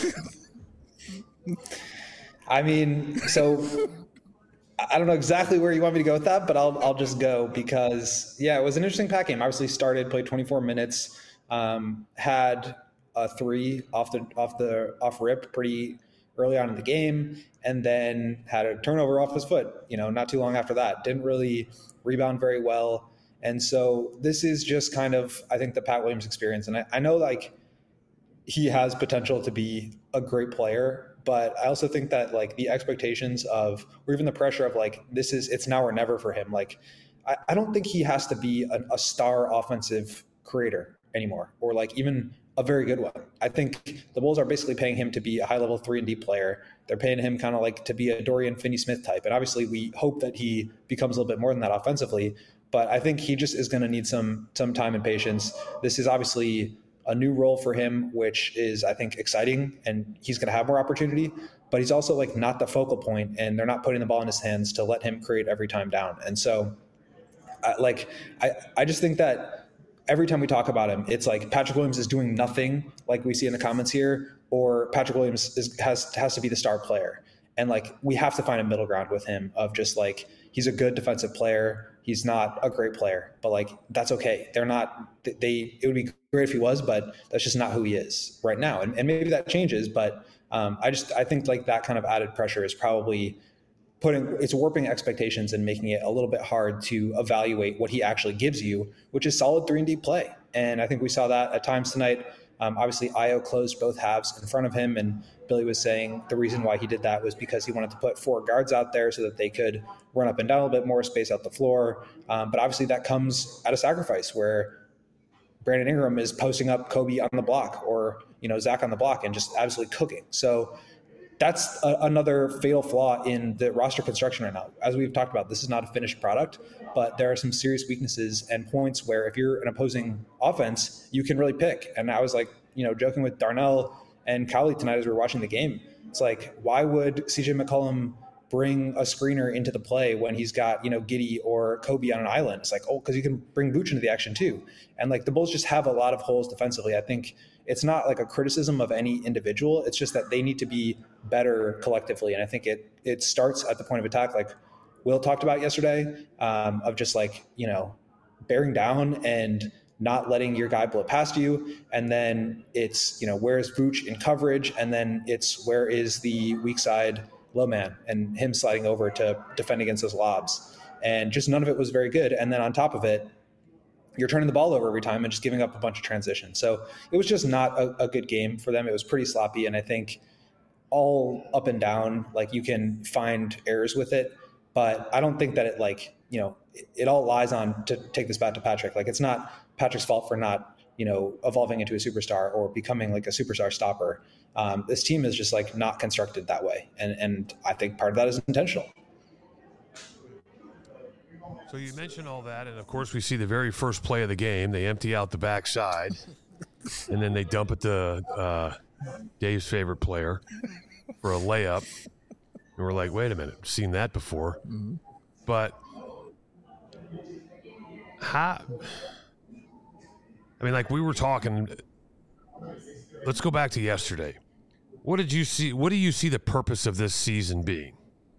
I mean, so I don't know exactly where you want me to go with that, but I'll just go because, yeah, it was an interesting pack game. Obviously played 24 minutes, had a 3 off rip pretty early on in the game, and then had a turnover off his foot, not too long after that. Didn't really rebound very well. And so this is just kind of, I think, the Pat Williams experience. And I know, like, he has potential to be a great player, but I also think that, like, the expectations of, or even the pressure of, like, it's now or never for him. Like, I don't think he has to be a star offensive creator anymore, or like even a very good one. I think the Bulls are basically paying him to be a high level 3-and-D player. They're paying him kind of like to be a Dorian Finney-Smith type. And obviously we hope that he becomes a little bit more than that offensively, but I think he just is going to need some time and patience. This is obviously a new role for him, which is, I think, exciting, and he's going to have more opportunity, but he's also like not the focal point, and they're not putting the ball in his hands to let him create every time down. And so I just think that every time we talk about him, it's like Patrick Williams is doing nothing, like we see in the comments here, or Patrick Williams has to be the star player. And like, we have to find a middle ground with him of just like, he's a good defensive player. He's not a great player, but like, that's okay. It would be great if he was, but that's just not who he is right now. And maybe that changes, but I think like that kind of added pressure is probably it's warping expectations and making it a little bit hard to evaluate what he actually gives you, which is solid 3-and-D play. And I think we saw that at times tonight. Obviously, Ayo closed both halves in front of him, and Billy was saying the reason why he did that was because he wanted to put 4 guards out there so that they could run up and down a little bit more, space out the floor. But obviously that comes at a sacrifice where Brandon Ingram is posting up Kobe on the block, or Zach on the block, and just absolutely cooking. So that's another fatal flaw in the roster construction right now. As we've talked about, this is not a finished product, but there are some serious weaknesses and points where if you're an opposing offense, you can really pick. And I was like, joking with Darnell and Cowley tonight as we were watching the game. It's like, why would CJ McCollum bring a screener into the play when he's got, Giddey or Kobe on an island? It's like, because you can bring Vooch into the action too. And like, the Bulls just have a lot of holes defensively. I think it's not like a criticism of any individual. It's just that they need to be better collectively. And I think it starts at the point of attack. Like, Will talked about yesterday, of just like, bearing down and not letting your guy blow past you. And then it's, where's Vooch in coverage? And then it's where is the weak side low man and him sliding over to defend against those lobs. And just none of it was very good. And then on top of it, you're turning the ball over every time and just giving up a bunch of transitions. So it was just not a good game for them. It was pretty sloppy. And I think all up and down, like you can find errors with it, but I don't think that it it all lies on, to take this back to Patrick. Like, it's not Patrick's fault for not, evolving into a superstar or becoming like a superstar stopper. This team is just like not constructed that way. And I think part of that is intentional. So you mentioned all that, and of course we see the very first play of the game. They empty out the backside, and then they dump it to Dave's favorite player for a layup. And we're like, wait a minute, seen that before. Mm-hmm. But we were talking. Let's go back to yesterday. What did you see? What do you see the purpose of this season being?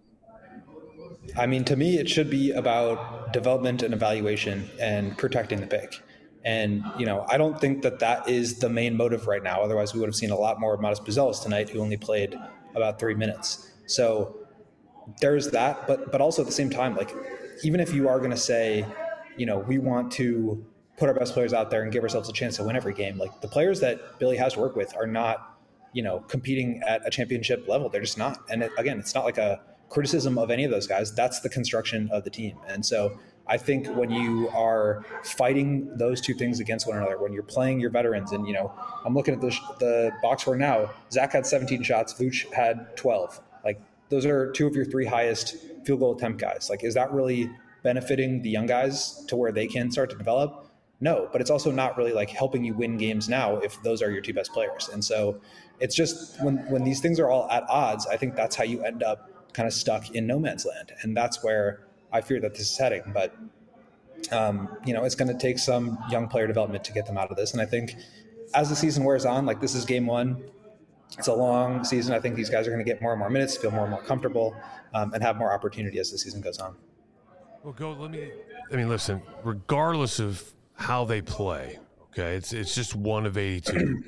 I mean, to me, it should be about development and evaluation and protecting the pick. And, I don't think that is the main motive right now. Otherwise, we would have seen a lot more of Modest Buzelis tonight, who only played about 3 minutes. So there's that. But also at the same time, like, even if you are going to say, we want to put our best players out there and give ourselves a chance to win every game, like, the players that Billy has to work with are not, competing at a championship level. They're just not. And again, it's not like a criticism of any of those guys. That's the construction of the team. And so I think when you are fighting those two things against one another, when you're playing your veterans, and I'm looking at the box score now, Zach had 17 shots, Vooch had 12. Like, those are two of your 3 highest field goal attempt guys. Like, is that really benefiting the young guys to where they can start to develop? No, but it's also not really like helping you win games now if those are your 2 best players. And so it's just when these things are all at odds, I think that's how you end up kind of stuck in no man's land. And that's where I fear that this is heading. But, it's going to take some young player development to get them out of this. And I think as the season wears on, like, this is game 1. It's a long season. I think these guys are going to get more and more minutes, feel more and more comfortable, and have more opportunity as the season goes on. Well, listen, regardless of how they play, okay, it's just one of 82.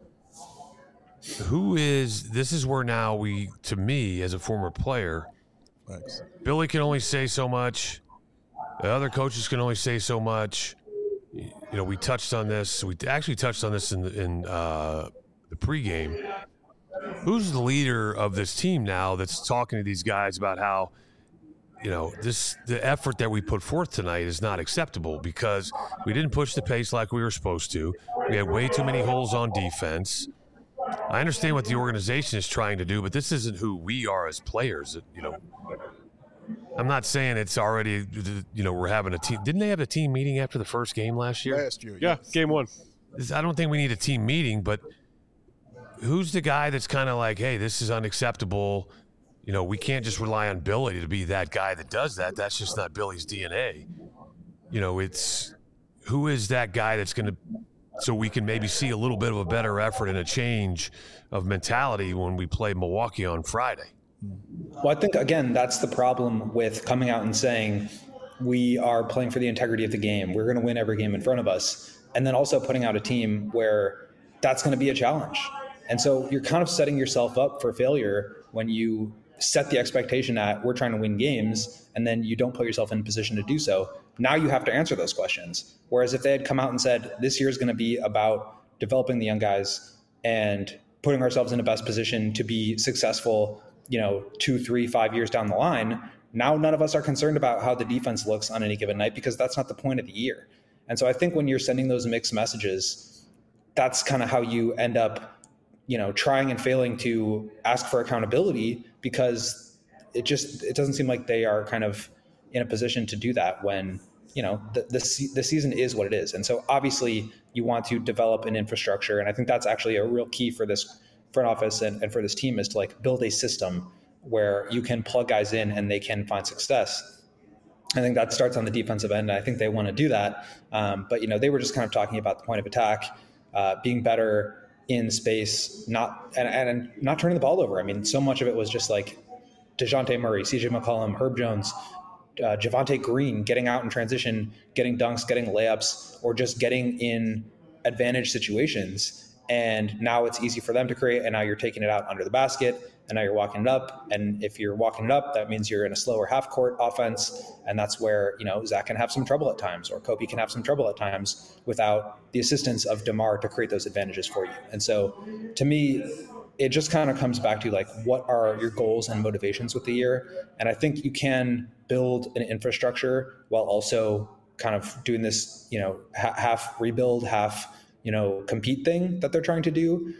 This is where now to me, as a former player, thanks. Billy can only say so much. The other coaches can only say so much. We touched on this. We actually touched on this in the pregame. Who's the leader of this team now that's talking to these guys about how, the effort that we put forth tonight is not acceptable because we didn't push the pace like we were supposed to. We had way too many holes on defense. I understand what the organization is trying to do, but this isn't who we are as players. I'm not saying it's already, we're having a team. Didn't they have a team meeting after the first game last year? Last year, yeah, game 1. I don't think we need a team meeting, but who's the guy that's kind of like, hey, this is unacceptable. We can't just rely on Billy to be that guy that does that. That's just not Billy's DNA. It's who is that guy that's going to, so we can maybe see a little bit of a better effort and a change of mentality when we play Milwaukee on Friday. Well, I think, again, that's the problem with coming out and saying we are playing for the integrity of the game. We're going to win every game in front of us. And then also putting out a team where that's going to be a challenge. And so you're kind of setting yourself up for failure when you set the expectation at we're trying to win games, and then you don't put yourself in a position to do so. Now you have to answer those questions. Whereas if they had come out and said, this year is going to be about developing the young guys and putting ourselves in the best position to be successful, 2, 3, 5 years down the line, now none of us are concerned about how the defense looks on any given night because that's not the point of the year. And so I think when you're sending those mixed messages, that's kind of how you end up, trying and failing to ask for accountability because it doesn't seem like they are kind of in a position to do that when, the season is what it is. And so obviously you want to develop an infrastructure. And I think that's actually a real key for this front office and for this team is to like build a system where you can plug guys in and they can find success. I think that starts on the defensive end. I think they want to do that. But, they were just kind of talking about the point of attack, being better in space, not turning the ball over. I mean, so much of it was just like DeJounte Murray, CJ McCollum, Herb Jones, Javonte Green getting out in transition, getting dunks, getting layups, or just getting in advantage situations. And now it's easy for them to create, and now you're taking it out under the basket, and now you're walking it up. And if you're walking it up, that means you're in a slower half-court offense, and that's where, Zach can have some trouble at times, or Kobe can have some trouble at times without the assistance of DeMar to create those advantages for you. And so, to me, it just kind of comes back to like, what are your goals and motivations with the year? And I think you can build an infrastructure while also kind of doing this, half rebuild, half, compete thing that they're trying to do.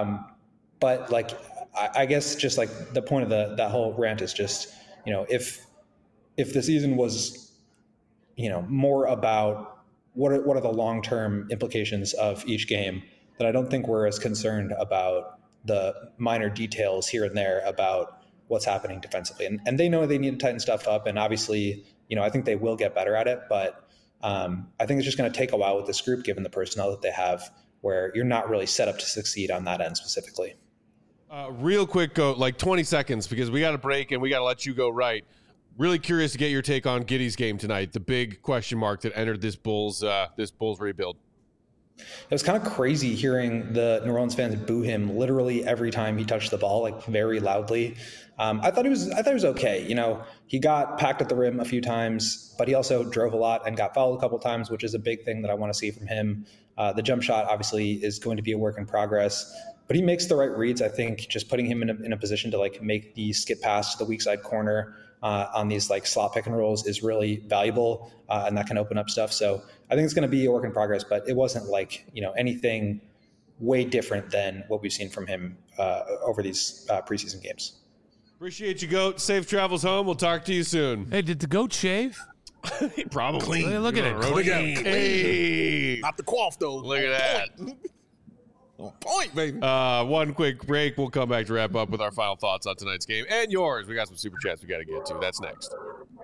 But like, I guess just like the point of that whole rant is just, if the season was, more about what are the long-term implications of each game, then I don't think we're as concerned about the minor details here and there about what's happening defensively. And they know they need to tighten stuff up. And obviously, I think they will get better at it, but I think it's just going to take a while with this group, given the personnel that they have, where you're not really set up to succeed on that end specifically. Real quick, go like 20 seconds because we got a break and we got to let you go right. Really curious to get your take on Giddey's game tonight, the big question mark that entered this Bulls rebuild. It was kind of crazy hearing the New Orleans fans boo him literally every time he touched the ball, like very loudly. I thought he was okay. He got packed at the rim a few times, but he also drove a lot and got fouled a couple times, which is a big thing that I want to see from him. The jump shot obviously is going to be a work in progress, but he makes the right reads. I think just putting him in a position to like make the skip pass to the weak side corner on these like slot pick and rolls is really valuable, and that can open up stuff. So I think it's going to be a work in progress, but it wasn't like, anything way different than what we've seen from him over these preseason games. Appreciate you, Goat. Safe travels home. We'll talk to you soon. Hey, did the Goat shave? Probably. Hey, look at it. Clean. Hey. Not the quaff, though. Look at that. On point, baby. One quick break. We'll come back to wrap up with our final thoughts on tonight's game and yours. We got some super chats we got to get to. That's next.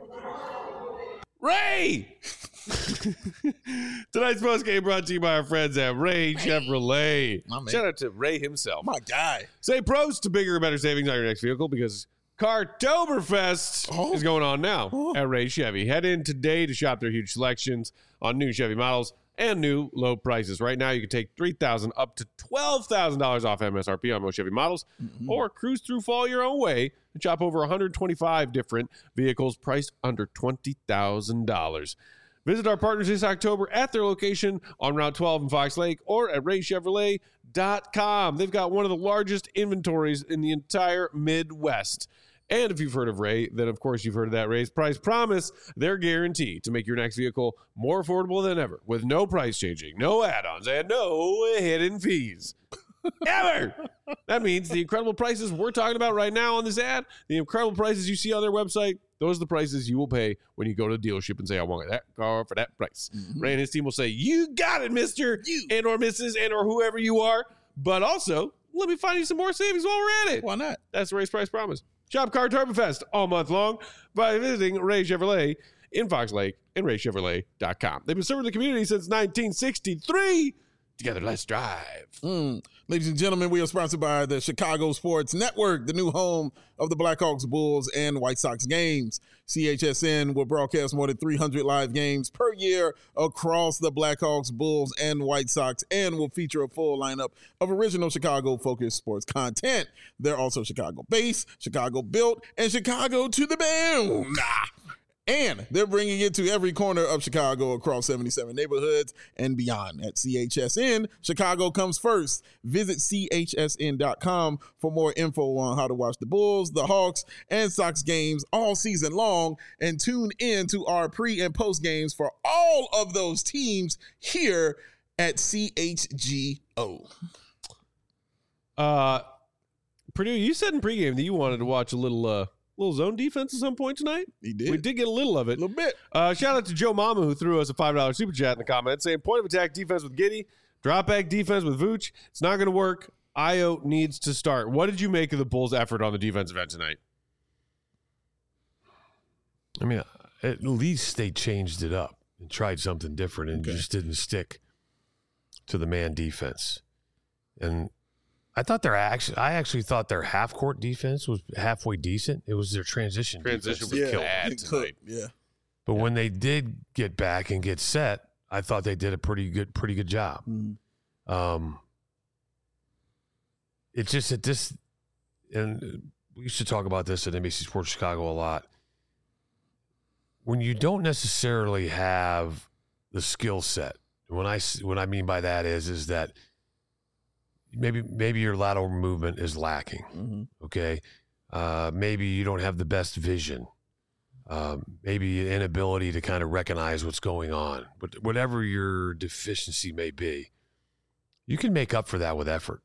Ray! Tonight's post game brought to you by our friends at Ray Chevrolet. Shout out to Ray himself. My guy. Say pros to bigger and better savings on your next vehicle because Cartoberfest is going on now at Ray Chevy. Head in today to shop their huge selections on new Chevy models and new low prices. Right now, you can take $3,000 up to $12,000 off MSRP on most Chevy models, or cruise through fall your own way and shop over 125 different vehicles priced under $20,000. Visit our partners this October at their location on Route 12 in Fox Lake or at RayChevrolet.com. They've got one of the largest inventories in the entire Midwest. And if you've heard of Ray, then of course you've heard of that Ray's Price Promise, their guarantee to make your next vehicle more affordable than ever with no price changing, no add-ons, and no hidden fees. Ever! That means the incredible prices we're talking about right now on this ad, the incredible prices you see on their website, those are the prices you will pay when you go to the dealership and say, I want that car for that price. Ray and his team will say, you got it, mister, and or Mrs., and or whoever you are. But also, let me find you some more savings while we're at it. Why not? That's the Ray's Price Promise. Shop Cartoberfest all month long by visiting Ray Chevrolet in Fox Lake and RayChevrolet.com. They've been serving the community since 1963. Together, let's drive. Ladies and gentlemen, we are sponsored by the Chicago Sports Network, the new home of the Blackhawks, Bulls, and White Sox games. CHSN will broadcast more than 300 live games per year across the Blackhawks, Bulls, and White Sox, and will feature a full lineup of original Chicago-focused sports content. They're also Chicago-based, Chicago-built, and Chicago to the bone. And they're bringing it to every corner of Chicago across 77 neighborhoods and beyond. At CHSN, Chicago comes first. Visit chsn.com for more info on how to watch the Bulls, the Hawks, and Sox games all season long. And tune in to our pre- and post games for all of those teams here at CHGO. Purdue, you said in pregame that you wanted to watch a little zone defense at some point tonight. He did. We did get a little of it. A little bit. Shout out to Joe Mama, who threw us a $5 super chat in the comments saying, point of attack defense with Giddey, drop back defense with Vooch. It's not going to work. Ayo needs to start. What did you make of the Bulls' effort on the defensive end tonight? I mean, at least they changed it up and tried something different and just didn't stick to the man defense. And I actually thought their half court defense was halfway decent. It was their transition. Transition defense was bad tonight. Yeah. But when they did get back and get set, I thought they did a pretty good job. It's just that this, and we used to talk about this at NBC Sports Chicago a lot. When you don't necessarily have the skill set, what I mean by that is that maybe your lateral movement is lacking. Okay, maybe you don't have the best vision. Maybe an inability to kind of recognize what's going on. But whatever your deficiency may be, you can make up for that with effort.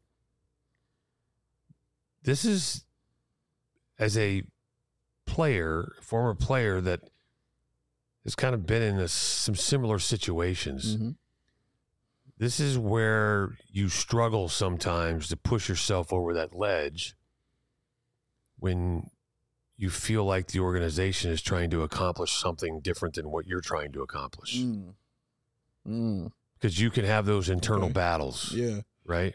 This is, as a player, former player that has kind of been in some similar situations, this is where you struggle sometimes to push yourself over that ledge when you feel like the organization is trying to accomplish something different than what you're trying to accomplish. Because you can have those internal battles. Yeah. Right?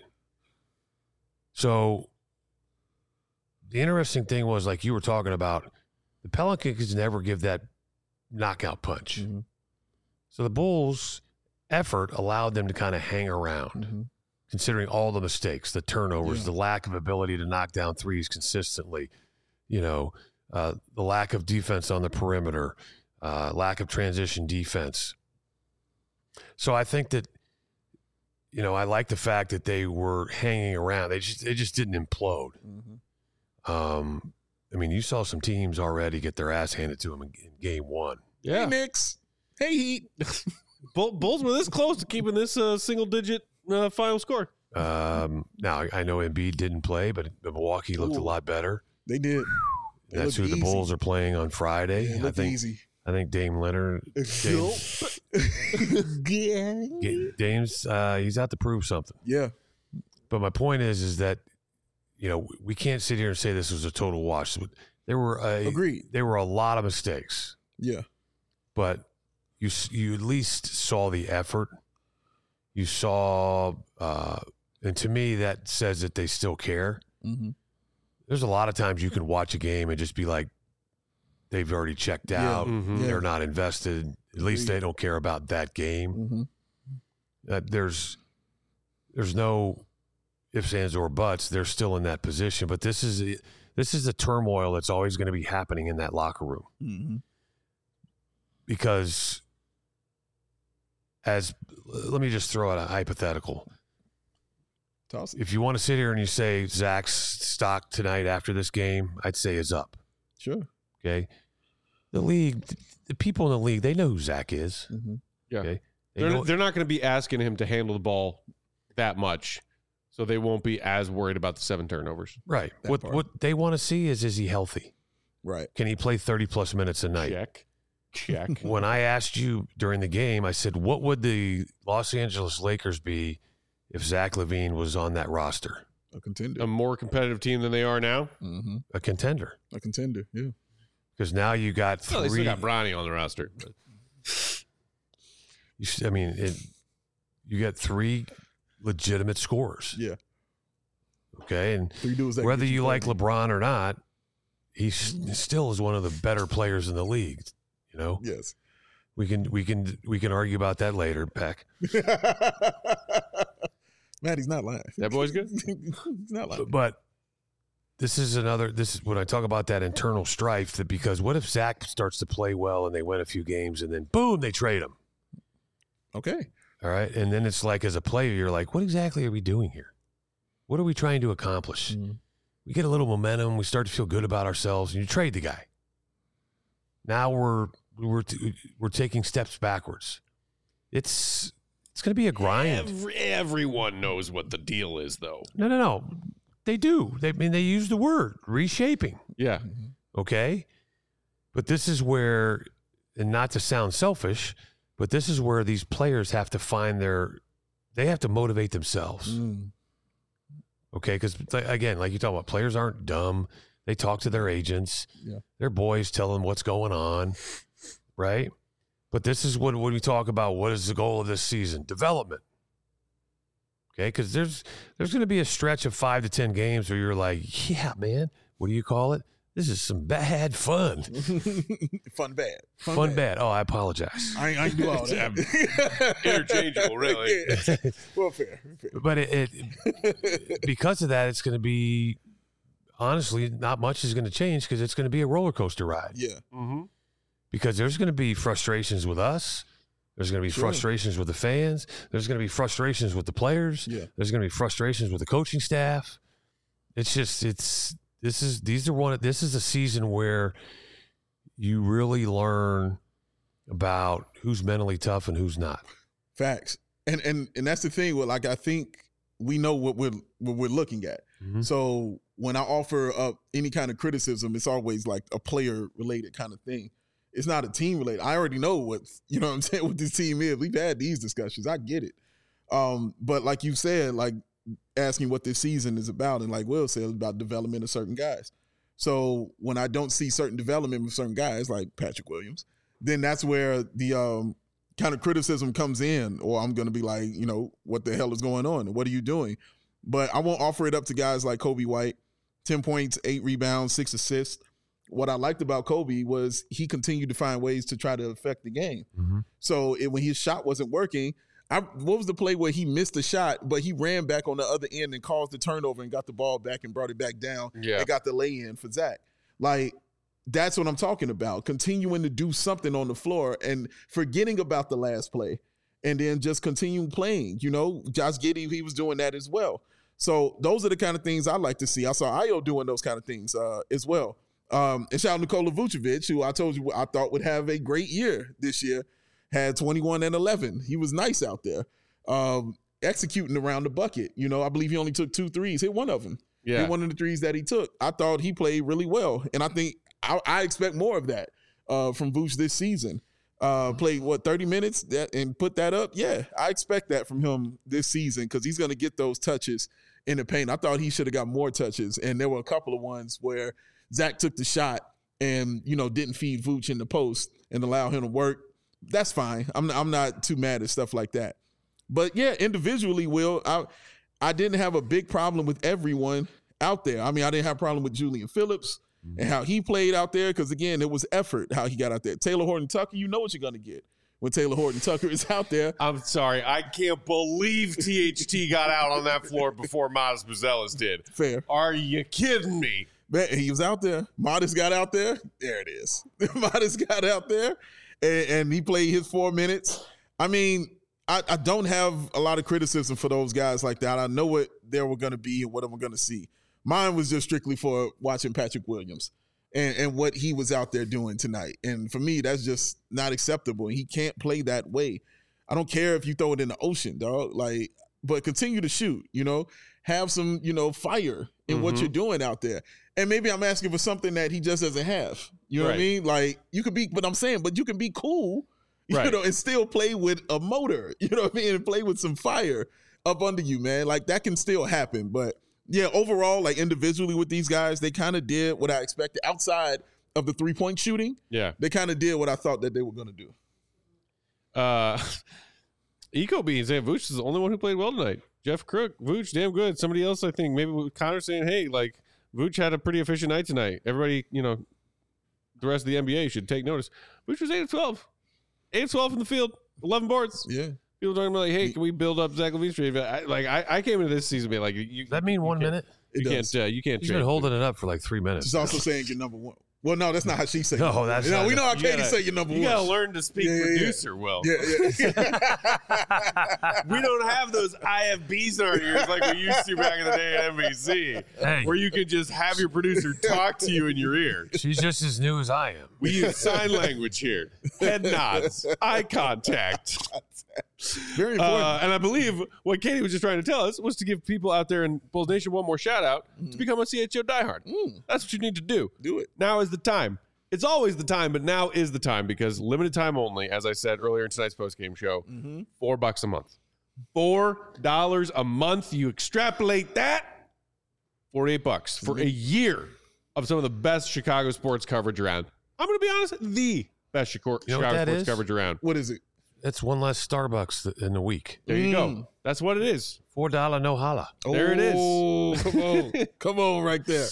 So the interesting thing was, like you were talking about, the Pelicans never give that knockout punch. So the Bulls' effort allowed them to kind of hang around, considering all the mistakes, the turnovers, the lack of ability to knock down threes consistently, the lack of defense on the perimeter, lack of transition defense. So I think that, I like the fact that they were hanging around. They just didn't implode. You saw some teams already get their ass handed to them in game one. Yeah. Hey, Knicks. Hey, Heat. Bulls were this close to keeping this single-digit final score. Now, I know Embiid didn't play, but Milwaukee looked a lot better. They did. That's who the Bulls are playing on Friday. Yeah, easy. I think Dame Leonard. Dame's he's out to prove something. Yeah. But my point is that we can't sit here and say this was a total wash. There were Agreed. There were a lot of mistakes. Yeah. But you at least saw the effort. You saw, and to me that says that they still care. There's a lot of times you can watch a game and just be like, they've already checked out. They're not invested. At least they don't care about that game. There's no ifs, ands, or buts. They're still in that position. But this is the turmoil that's always going to be happening in that locker room. Because let me just throw out a hypothetical. If you want to sit here and you say Zach's stock tonight after this game, I'd say is up. Sure. Okay. The league, the people in the league, they know who Zach is. Yeah. Okay. They're not going to be asking him to handle the ball that much, so they won't be as worried about the 7 turnovers. Right. What they want to see is he healthy? Right. Can he play 30-plus minutes a night? Check. When I asked you during the game, I said, what would the Los Angeles Lakers be if Zach LaVine was on that roster? A contender. A more competitive team than they are now? A contender. A contender, yeah. Because now you got 3. Well, they still got Bronny on the roster. You got 3 legitimate scorers. Yeah. Okay, and 3 dudes that whether you like LeBron or not, he still is one of the better players in the league. Yes. We can argue about that later, Peck. Matt, he's not lying. That boy's good. He's not lying. But this is when I talk about that internal strife, that because what if Zach starts to play well and they win a few games and then boom, they trade him. Okay. All right. And then it's like, as a player, you're like, what exactly are we doing here? What are we trying to accomplish? We get a little momentum. We start to feel good about ourselves, and you trade the guy. Now we're taking steps backwards. It's going to be a grind. Everyone knows what the deal is, though. No. They do. They use the word reshaping. Yeah. Okay. But this is where, and not to sound selfish, but this is where these players have to find they have to motivate themselves. Okay. Because again, like you talk about, players aren't dumb. They talk to their agents. Yeah. Their boys tell them what's going on. Right. But this is what we talk about. What is the goal of this season? Development. Okay. Because there's going to be a stretch of 5 to 10 games where you're like, yeah, man, what do you call it? This is some bad fun. Fun bad. Fun bad. Oh, I apologize. I ain't do all that. Interchangeable, really. Well, fair. But it because of that, it's going to be, honestly, not much is going to change because it's going to be a roller coaster ride. Yeah. Mm-hmm. Because there's going to be frustrations with us. There's going to be frustrations with the fans. There's going to be frustrations with the players. Yeah. There's going to be frustrations with the coaching staff. It's just this is a season where you really learn about who's mentally tough and who's not. Facts. And that's the thing. Well, like, I think we know what we're looking at. Mm-hmm. So when I offer up any kind of criticism, it's always like a player related kind of thing. It's not a team related. I already know what I'm saying, what this team is. We've had these discussions. I get it. But like you said, like asking what this season is about, and like Will said, it's about development of certain guys. So when I don't see certain development with certain guys like Patrick Williams, then that's where the kind of criticism comes in, or I'm going to be like, what the hell is going on? What are you doing? But I won't offer it up to guys like Kobe White, 10 points, 8 rebounds, 6 assists. What I liked about Kobe was he continued to find ways to try to affect the game. Mm-hmm. So when his shot wasn't working, what was the play where he missed the shot, but he ran back on the other end and caused the turnover and got the ball back and brought it back down and got the lay-in for Zach? Like, that's what I'm talking about. Continuing to do something on the floor and forgetting about the last play and then just continuing playing. Josh Giddey, he was doing that as well. So those are the kind of things I like to see. I saw Ayo doing those kind of things as well. And shout out Nikola Vucevic, who I told you I thought would have a great year this year, had 21 and 11. He was nice out there, executing around the bucket. I believe he only took 2 threes, hit one of them. Yeah. Hit one of the threes that he took. I thought he played really well, and I think I expect more of that from Vuce this season. Played 30 minutes and put that up? Yeah, I expect that from him this season because he's going to get those touches in the paint. I thought he should have got more touches, and there were a couple of ones where Zach took the shot and didn't feed Vooch in the post and allow him to work. That's fine. I'm not too mad at stuff like that. But yeah, individually, Will, I didn't have a big problem with everyone out there. I mean, I didn't have a problem with Julian Phillips and how he played out there because, again, it was effort how he got out there. Taylor Horton-Tucker, you know what you're going to get when Taylor Horton-Tucker is out there. I'm sorry. I can't believe THT got out on that floor before Modest Buzelis did. Fair. Are you kidding me? Man, he was out there. Modest got out there. There it is. Modest got out there, and he played his 4 minutes. I mean, I don't have a lot of criticism for those guys like that. I know what they were going to be and what I'm going to see. Mine was just strictly for watching Patrick Williams and what he was out there doing tonight. And for me, that's just not acceptable. He can't play that way. I don't care if you throw it in the ocean, dog. But continue to shoot, have some, fire in what you're doing out there. And maybe I'm asking for something that he just doesn't have. You know what I mean? Like, you could be, but I'm saying, but you can be cool, and still play with a motor, you know what I mean? And play with some fire up under you, man. Like, that can still happen. But yeah, overall, like individually with these guys, they kind of did what I expected outside of the 3-point shooting. Yeah. They kind of did what I thought that they were going to do. Eco Beans, Vooch is the only one who played well tonight. Jeff Crook, Vooch, damn good. Somebody else, I think, maybe with Connor saying, hey, like, Vooch had a pretty efficient night tonight. Everybody, the rest of the NBA should take notice. Vooch was 8 of 12. 8 of 12 in the field, 11 boards. Yeah. People talking about, like, hey, can we build up Zach LaVine Street? I came into this season being like, does that mean 1 minute? You can't. He's been holding it up for like 3 minutes. She's also saying you're number one. Well, no, that's not how she said it. No, that's we know how Katie say you're number one. You got to learn to speak producer well. Yeah. We don't have those IFBs in our ears like we used to back in the day at NBC, where you could just have your producer talk to you in your ear. She's just as new as I am. We use sign language here. Head nods, eye contact. Very important. And I believe what Katie was just trying to tell us was to give people out there in Bulls Nation one more shout out to become a CHO diehard. That's what you need to do. Do it. Now is the time. It's always the time, but now is the time because limited time only, as I said earlier in tonight's postgame show, $4 a month. $4 a month. You extrapolate that, $48 for a year of some of the best Chicago sports coverage around. I'm going to be honest, the best Chicago sports coverage around. What is it? It's one less Starbucks in a week. There you go. That's what it is. $4 no holla. There it is. Come on. Come on right there.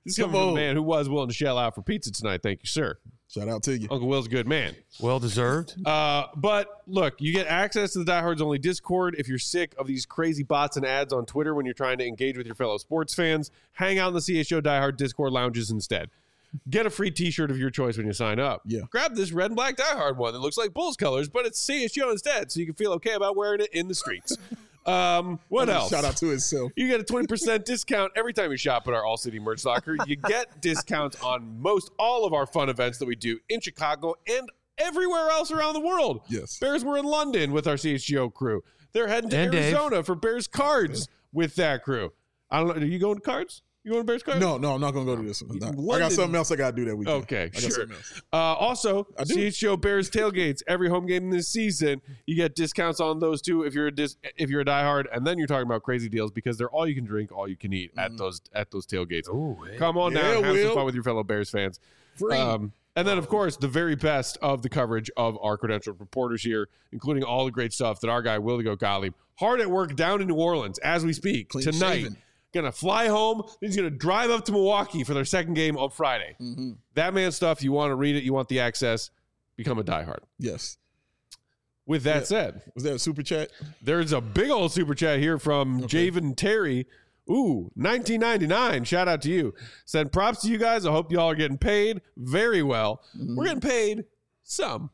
This is coming from a man who was willing to shell out for pizza tonight. Thank you, sir. Shout out to you. Uncle Will's a good man. Well deserved. But look, you get access to the Diehards Only Discord. If you're sick of these crazy bots and ads on Twitter when you're trying to engage with your fellow sports fans, hang out in the CHGO Diehard Discord lounges instead. Get a free t-shirt of your choice when you sign up. Yeah. Grab this red and black Diehard one that looks like Bulls colors, but it's CHGO instead, so you can feel okay about wearing it in the streets. What else? Shout out to itself. You get a 20% discount every time you shop at our All City merch locker. You get discounts on most all of our fun events that we do in Chicago and everywhere else around the world. Yes. Bears were in London with our CHGO crew. They're heading to Arizona for Bears cards with that crew. I don't know. Are you going to cards? You going to Bears cards? No, I'm not going to go to this one. I got something else I got to do that weekend. Okay, I got sure. something else. Also, CHGO Bears tailgates every home game this season. You get discounts on those too if you're a diehard, and then you're talking about crazy deals because they're all you can drink, all you can eat at those tailgates. Ooh, hey. Come on down, have some fun with your fellow Bears fans. Free. And then, of course, the very best of the coverage of our credentialed reporters here, including all the great stuff that our guy Will Go Gottlieb, hard at work down in New Orleans as we speak Clean tonight. shaven. Gonna fly home. Then he's gonna drive up to Milwaukee for their second game on Friday. Mm-hmm. That man's stuff. You want to read it. You want the access. Become a diehard. Yes. With that said, was that a super chat? there's a big old super chat here from Javen Terry. Ooh, 1999. Shout out to you. Said props to you guys. I hope y'all are getting paid very well. We're getting paid some.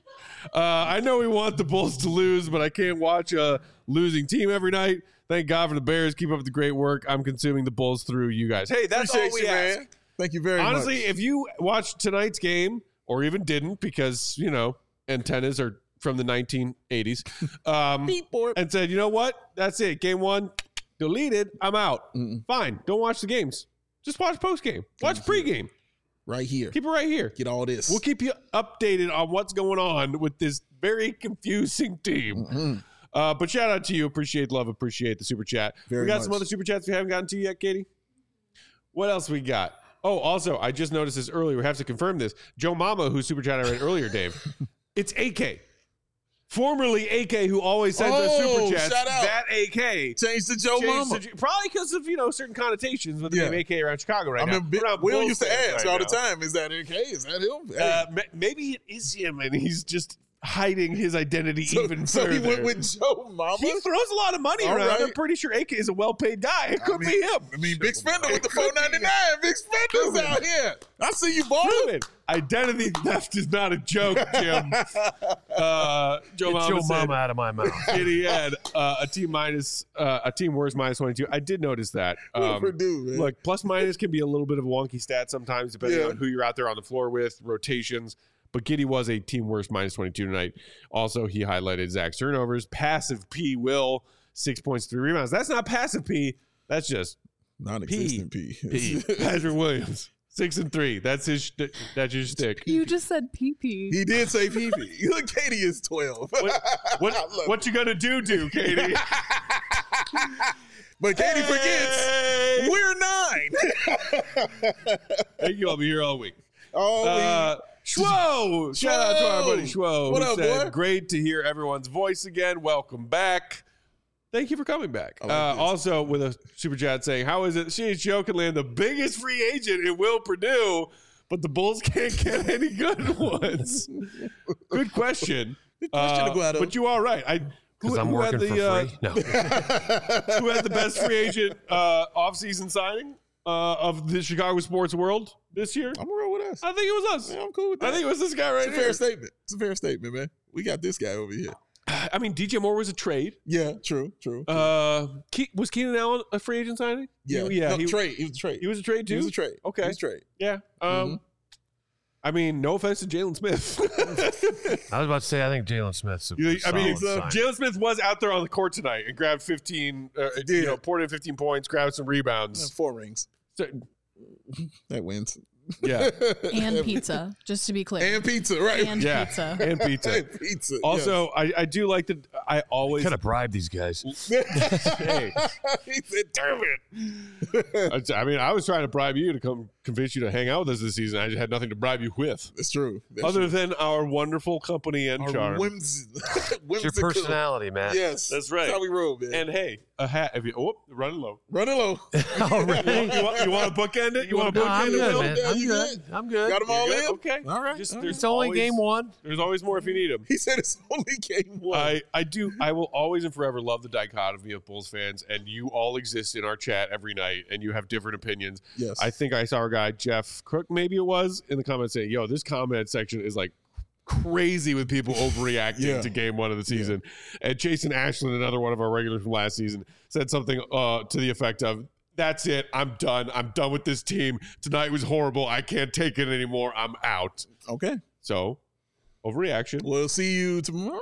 I know we want the Bulls to lose, but I can't watch a losing team every night. Thank God for the Bears. Keep up the great work. I'm consuming the Bulls through you guys. Hey, that's all we ask. Man. Thank you very much. Honestly, if you watched tonight's game or even didn't because, antennas are from the 1980s and said, you know what? That's it. Game one, deleted. I'm out. Fine. Don't watch the games. Just watch postgame. Watch pregame. Right here. Keep it right here. Get all this. We'll keep you updated on what's going on with this very confusing team. But shout out to you. Appreciate the love. Appreciate the super chat. We got some other super chats we haven't gotten to yet, Katie. What else we got? Oh, also, I just noticed this earlier. We have to confirm this. Joe Mama, whose super chat I read earlier, Dave. It's AK. Formerly AK, who always sends us super chats. Shout out. That AK. Changed to Joe Mama. Probably because of, certain connotations with the name AK around Chicago right now. Will used to ask all the time, is that AK? Is that him? Hey. Maybe it is him, and he's just hiding his identity even so further. he went with Joe Mama? He throws a lot of money around. Right. I'm pretty sure AK is a well-paid guy. It could be him. I mean, Big Spender with the $4.99. Big Spender's out here. I see you, boy. Identity theft is not a joke, Jim. Joe Mama out of my mouth. He had a team worst minus 22. I did notice that. Look, plus minus can be a little bit of a wonky stat sometimes, depending on who you're out there on the floor with, rotations. But Giddy was a team worst minus 22 tonight. Also, he highlighted Zach's turnovers. Passive P, Will, 6 points, 3 rebounds. That's not passive P. That's just non-existent P. Patrick Williams, 6 and 3. That's his. That's your stick. You just said PP. He did say PP. Look, Katie is 12. What you gonna do, Katie? But Katie forgets we're 9. Thank you. I'll be here all week. Schwo! Shout out to our buddy Schwo. What up, boy? Great to hear everyone's voice again. Welcome back. Thank you for coming back. Also, with a super chat saying, how is it CHGO can land the biggest free agent in Will Purdue, but the Bulls can't get any good ones? Good question. Good question to go out of. But you are right. Because I'm working for free? No. Who had the best free agent offseason signing of the Chicago sports world this year? I'm going to roll with us. I think it was us. Yeah, I'm cool with that. I think it was this guy right here. It's a fair statement. It's a fair statement, man. We got this guy over here. I mean, DJ Moore was a trade. Yeah, true. Was Keenan Allen a free agent signing? Yeah. Trade. He was a trade. He was a trade too? He was a trade. Okay. He was a trade. Yeah. I mean, no offense to Jalen Smith. I was about to say, I think Jalen Smith's Jalen Smith was out there on the court tonight and grabbed 15, poured in 15 points, grabbed some rebounds. 4 rings. So, that wins. Yeah. And pizza, just to be clear. And pizza, right? And Yeah. pizza. And pizza. And pizza. Also, I do like that. I always Could have bribed these guys. Hey, he said, "Damn it." I mean, I was trying to bribe you to come convince you to hang out with us this season. I just had nothing to bribe you with, That's true. That's other true. than our wonderful company and Our charm. It's your whimsical. personality, man. Yes, That's right. That's how we roll, man. And hey, a hat. If you running low. Running low. Already? You want to bookend it? You want to No, bookend I'm it? good, Will? man. Yeah, I'm you good. I'm good. Got them all You're good? in. Okay. All right. Just, all there's It's only always- game one. There's always more if you need them. He said it's only game one. I will always and forever love the dichotomy of Bulls fans, and you all exist in our chat every night, and you have different opinions. Yes. I think I saw our guy Jeff Crook, maybe it was, in the comments saying, "Yo, this comment section is like crazy with people overreacting Yeah. to game one of the season." And Jason Ashland, another one of our regulars from last season, said something to the effect of, "That's it. I'm done. I'm done with this team. Tonight was horrible. I can't take it anymore. I'm out." Okay. So, overreaction. We'll see you tomorrow.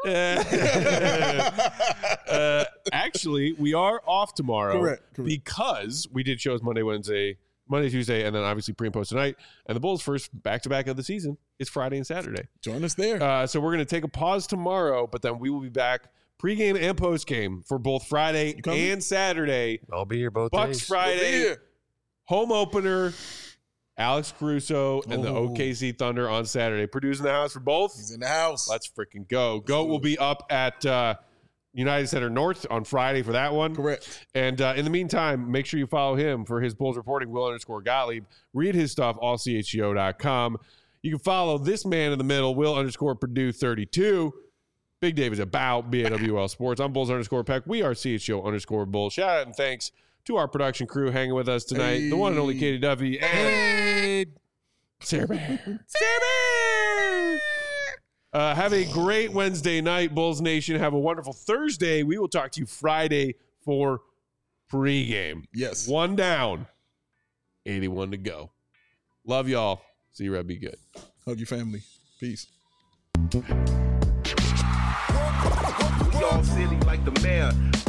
Actually, we are off tomorrow. Correct. Because we did shows Monday, Tuesday, and then obviously pre and post tonight. And the Bulls' first back-to-back of the season is Friday and Saturday. Join us there. So we're going to take a pause tomorrow, but then we will be back pregame and postgame for both Friday You coming? and Saturday. I'll be here both Bucks days. Friday, Here. home opener, Alex Caruso and the Oh. OKC Thunder on Saturday. Purdue's in the house for both. He's in the house. Let's freaking go. Goat will be up at United Center North on Friday for that one. Correct. And in the meantime, make sure you follow him for his Bulls reporting, Will_Gottlieb. Read his stuff, allchgo.com. You can follow this man in the middle, Will_Purdue32. Big Dave is about BAWL Sports. I'm Bulls_Peck. We are CHGO_Bulls. Shout out and thanks to our production crew hanging with us tonight. The one and only Katie Duffy and Sarah Bear. Sarah Bear! Have a great Wednesday night, Bulls Nation. Have a wonderful Thursday. We will talk to you Friday for pregame. Yes. One down, 81 to go. Love y'all. See you, Red. Be good. Hug your family. Peace. We all silly like the mayor.